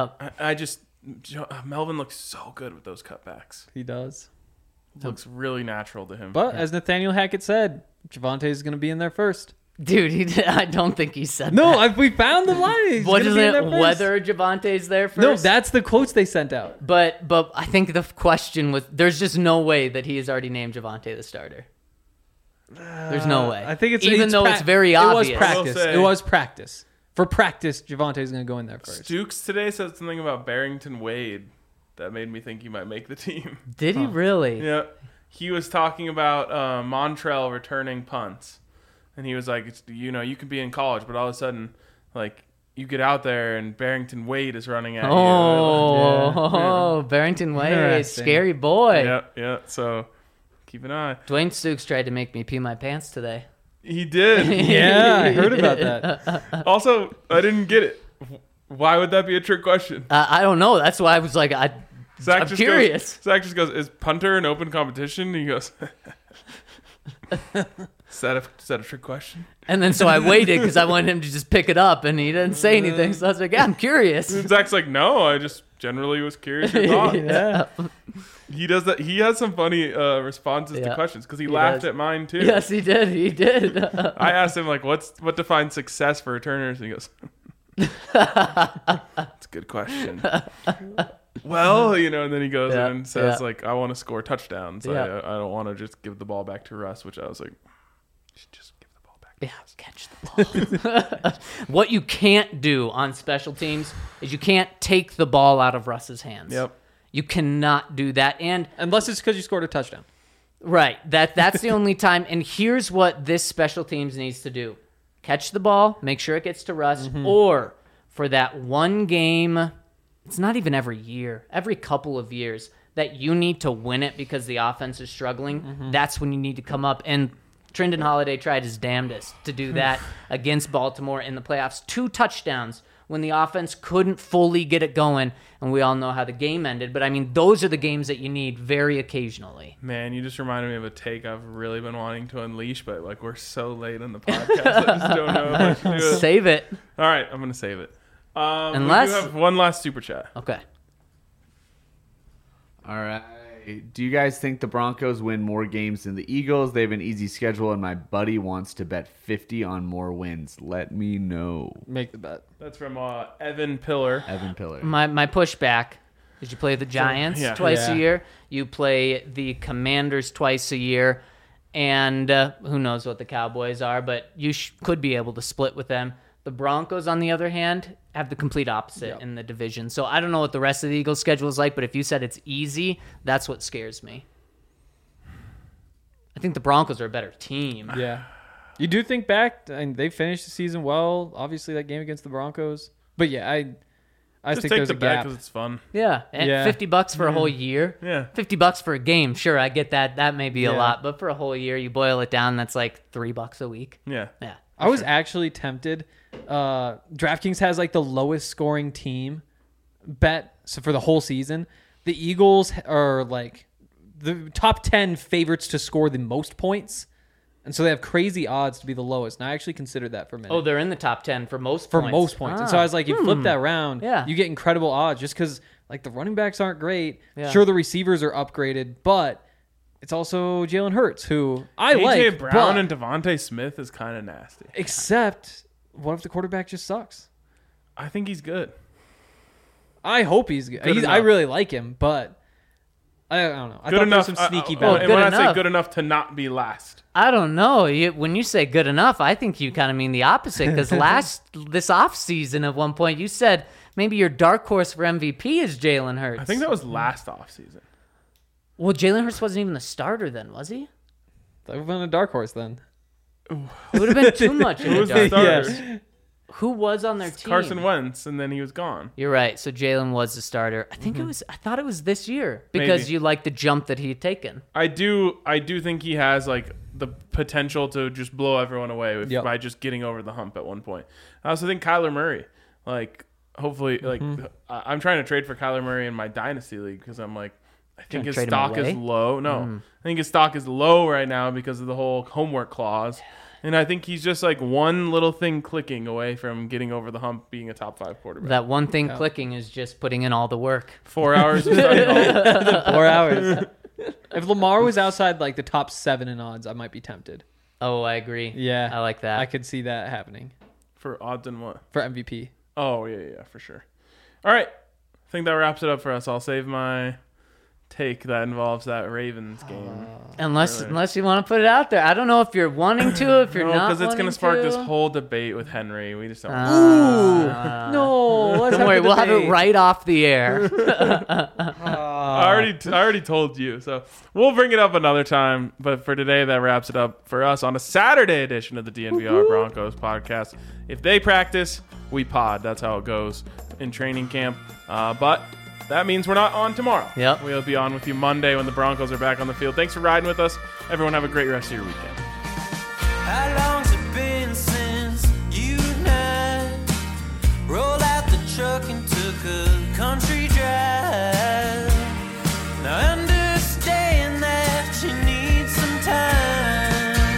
Melvin looks so good with those cutbacks. He does. Looks really natural to him. But as Nathaniel Hackett said, Javonte is going to be in there first. Dude, I don't think he said No, that. we found the line. He's What gonna is be in it? there first. Whether Javonte's there first? No, that's the quotes they sent out. But I think the question was, there's just no way that he has already named Javonte the starter. There's no way. I think it's even though it's very obvious. It was practice. I will say- It was practice. For practice, Javonte's going to go in there first. Stooks today said something about Barrington Wade that made me think he might make the team. Did he really? Yeah, he was talking about Montrell returning punts, and he was like, you could be in college, but all of a sudden, like, you get out there and Barrington Wade is running at you. Oh, Barrington Wade, Interesting. scary boy. Yeah. So keep an eye. Dwayne Stooks tried to make me pee my pants today. He did. Yeah, I heard about that. Also, I didn't get it. Why would that be a trick question? I don't know. That's why I was like, Zach I'm just curious. Zach just goes, "Is punter an open competition?" And he goes, "Is that a trick question?" And then so I waited because I wanted him to just pick it up, and he didn't say anything. So I was like, yeah, I'm curious. And Zach's like, "No, I just generally was curious your thoughts." Yeah. He does that. He has some funny responses to Yeah. questions because he He laughed does. at mine too. Yes, he did. He did. I asked him like, what defines success for returners? And he goes, "That's a good question." Well, and then he goes Yeah, in and says yeah. like, "I want to score touchdowns. Yeah. I don't want to just give the ball back to Russ," which I was like, just give the ball back. Yeah, catch the ball. What you can't do on special teams is you can't take the ball out of Russ's hands. Yep. You cannot do that. And Unless it's because you scored a touchdown. right, that's the only time. And here's what this special teams needs to do. Catch the ball, make sure it gets to Russ, or for that one game, it's not even every year, every couple of years, that you need to win it because the offense is struggling, that's when you need to come up. And Trindon Holiday tried his damnedest to do that against Baltimore in the playoffs. 2 touchdowns when the offense couldn't fully get it going, and we all know how the game ended. But, I mean, those are the games that you need very occasionally. Man, you just reminded me of a take I've really been wanting to unleash, but like we're so late in the podcast, I just don't know if I should do it. Save it. All right, I'm gonna save it. Unless- we do have one last super chat. Okay. All right. Do you guys think the Broncos win more games than the Eagles? They have an easy schedule, and my buddy wants to bet 50 on more wins. Let me know. Make the bet. That's from Evan Pillar. Evan Pillar. My pushback is you play the Giants yeah. twice Yeah. a year. You play the Commanders twice a year. And who knows what the Cowboys are, but you could be able to split with them. The Broncos, on the other hand, have the complete opposite in the division. So I don't know what the rest of the Eagles' schedule is like, but if you said it's easy, that's what scares me. I think the Broncos are a better team. Yeah. You do think back, and they finished the season well. Obviously, that game against the Broncos. But yeah, I Just think take there's the a bet gap. because it's fun. Yeah, and Yeah. $50 for a whole year. Yeah. $50 for a game, sure, I get that. That may be a Yeah. lot, but for a whole year, you boil it down, that's like $3 a week. Yeah. Yeah. I was actually tempted. DraftKings has like the lowest scoring team bet so for the whole season. The Eagles are like the top 10 favorites to score the most points. And so they have crazy odds to be the lowest. And I actually considered that for a minute. Oh, they're in the top 10 for most for points. most points. And so I was like, you flip that around, Yeah. you get incredible odds just because like the running backs aren't great. Yeah. Sure, the receivers are upgraded, but it's also Jalen Hurts, who I AJ like. Brown but- and Devontae Smith is kind of nasty. except, what if the quarterback just sucks? I think he's good. I hope he's good. Good I enough. really like him, but I don't know. I Good thought enough. there was some sneaky and balance. good when I say enough. good enough to not be last. I don't know. When you say good enough, I think you kind of mean the opposite because this offseason at one point you said maybe your dark horse for MVP is Jalen Hurts. I think that was last offseason. Well, Jalen Hurts wasn't even the starter then, was he? That would have been a dark horse then. It would have been too much. Who was in the the dark. starter? Yes. Who was on their team? Carson Wentz, and then he was gone. You're right. So Jalen was the starter. I think it was. I thought it was this year because Maybe. you like the jump that he had taken. I do think he has like the potential to just blow everyone away Yep. by just getting over the hump at one point. I also think Kyler Murray, like hopefully, like I'm trying to trade for Kyler Murray in my dynasty league because I'm like I think to his trade him stock is away? low. No, I think his stock is low right now because of the whole homework clause. And I think he's just like one little thing clicking away from getting over the hump, being a top 5 quarterback. That one thing clicking is just putting in all the work. 4 hours of study hall. 4 hours. If Lamar was outside like the top 7 in odds, I might be tempted. Oh, I agree. Yeah, I like that. I could see that happening For odds and what? for MVP. Oh, yeah, for sure. All right. I think that wraps it up for us. I'll save my take that involves that Ravens game. Unless you want to put it out there. I don't know if you're wanting to, if you're not because it's going to spark this whole debate with Henry. We just don't. No, let's Don't worry, we'll have it right off the air. I already told you, so we'll bring it up another time. But for today, that wraps it up for us on a Saturday edition of the DNVR Broncos podcast. If they practice, we pod. That's how it goes in training camp. But that means we're not on tomorrow. Yep. We'll be on with you Monday when the Broncos are back on the field. Thanks for riding with us. Everyone have a great rest of your weekend. How long's it been since you and I rolled out the truck and took a country drive? Now I understand that you need some time.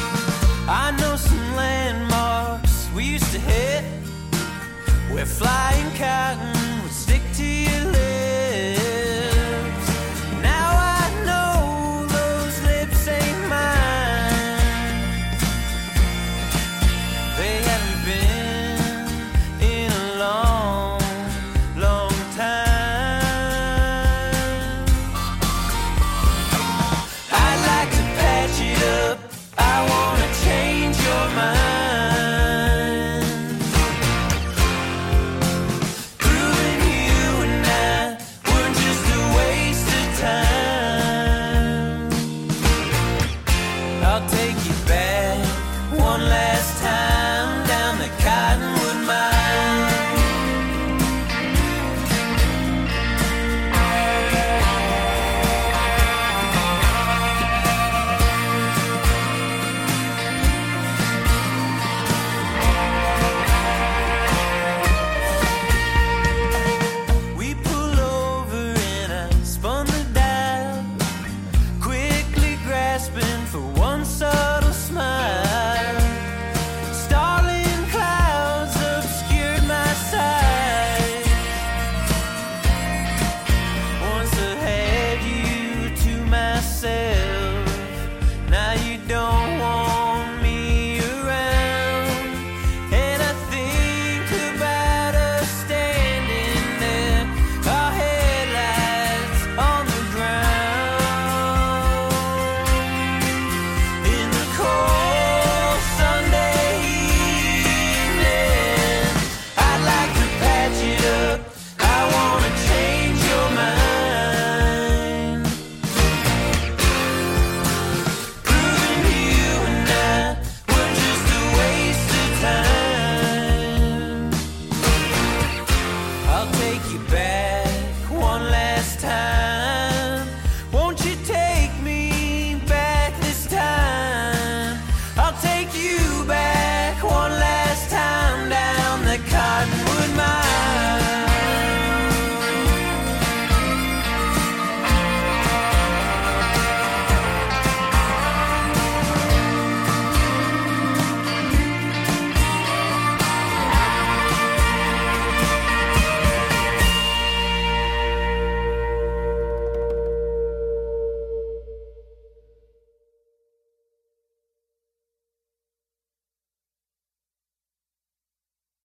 I know some landmarks we used to hit. We're flying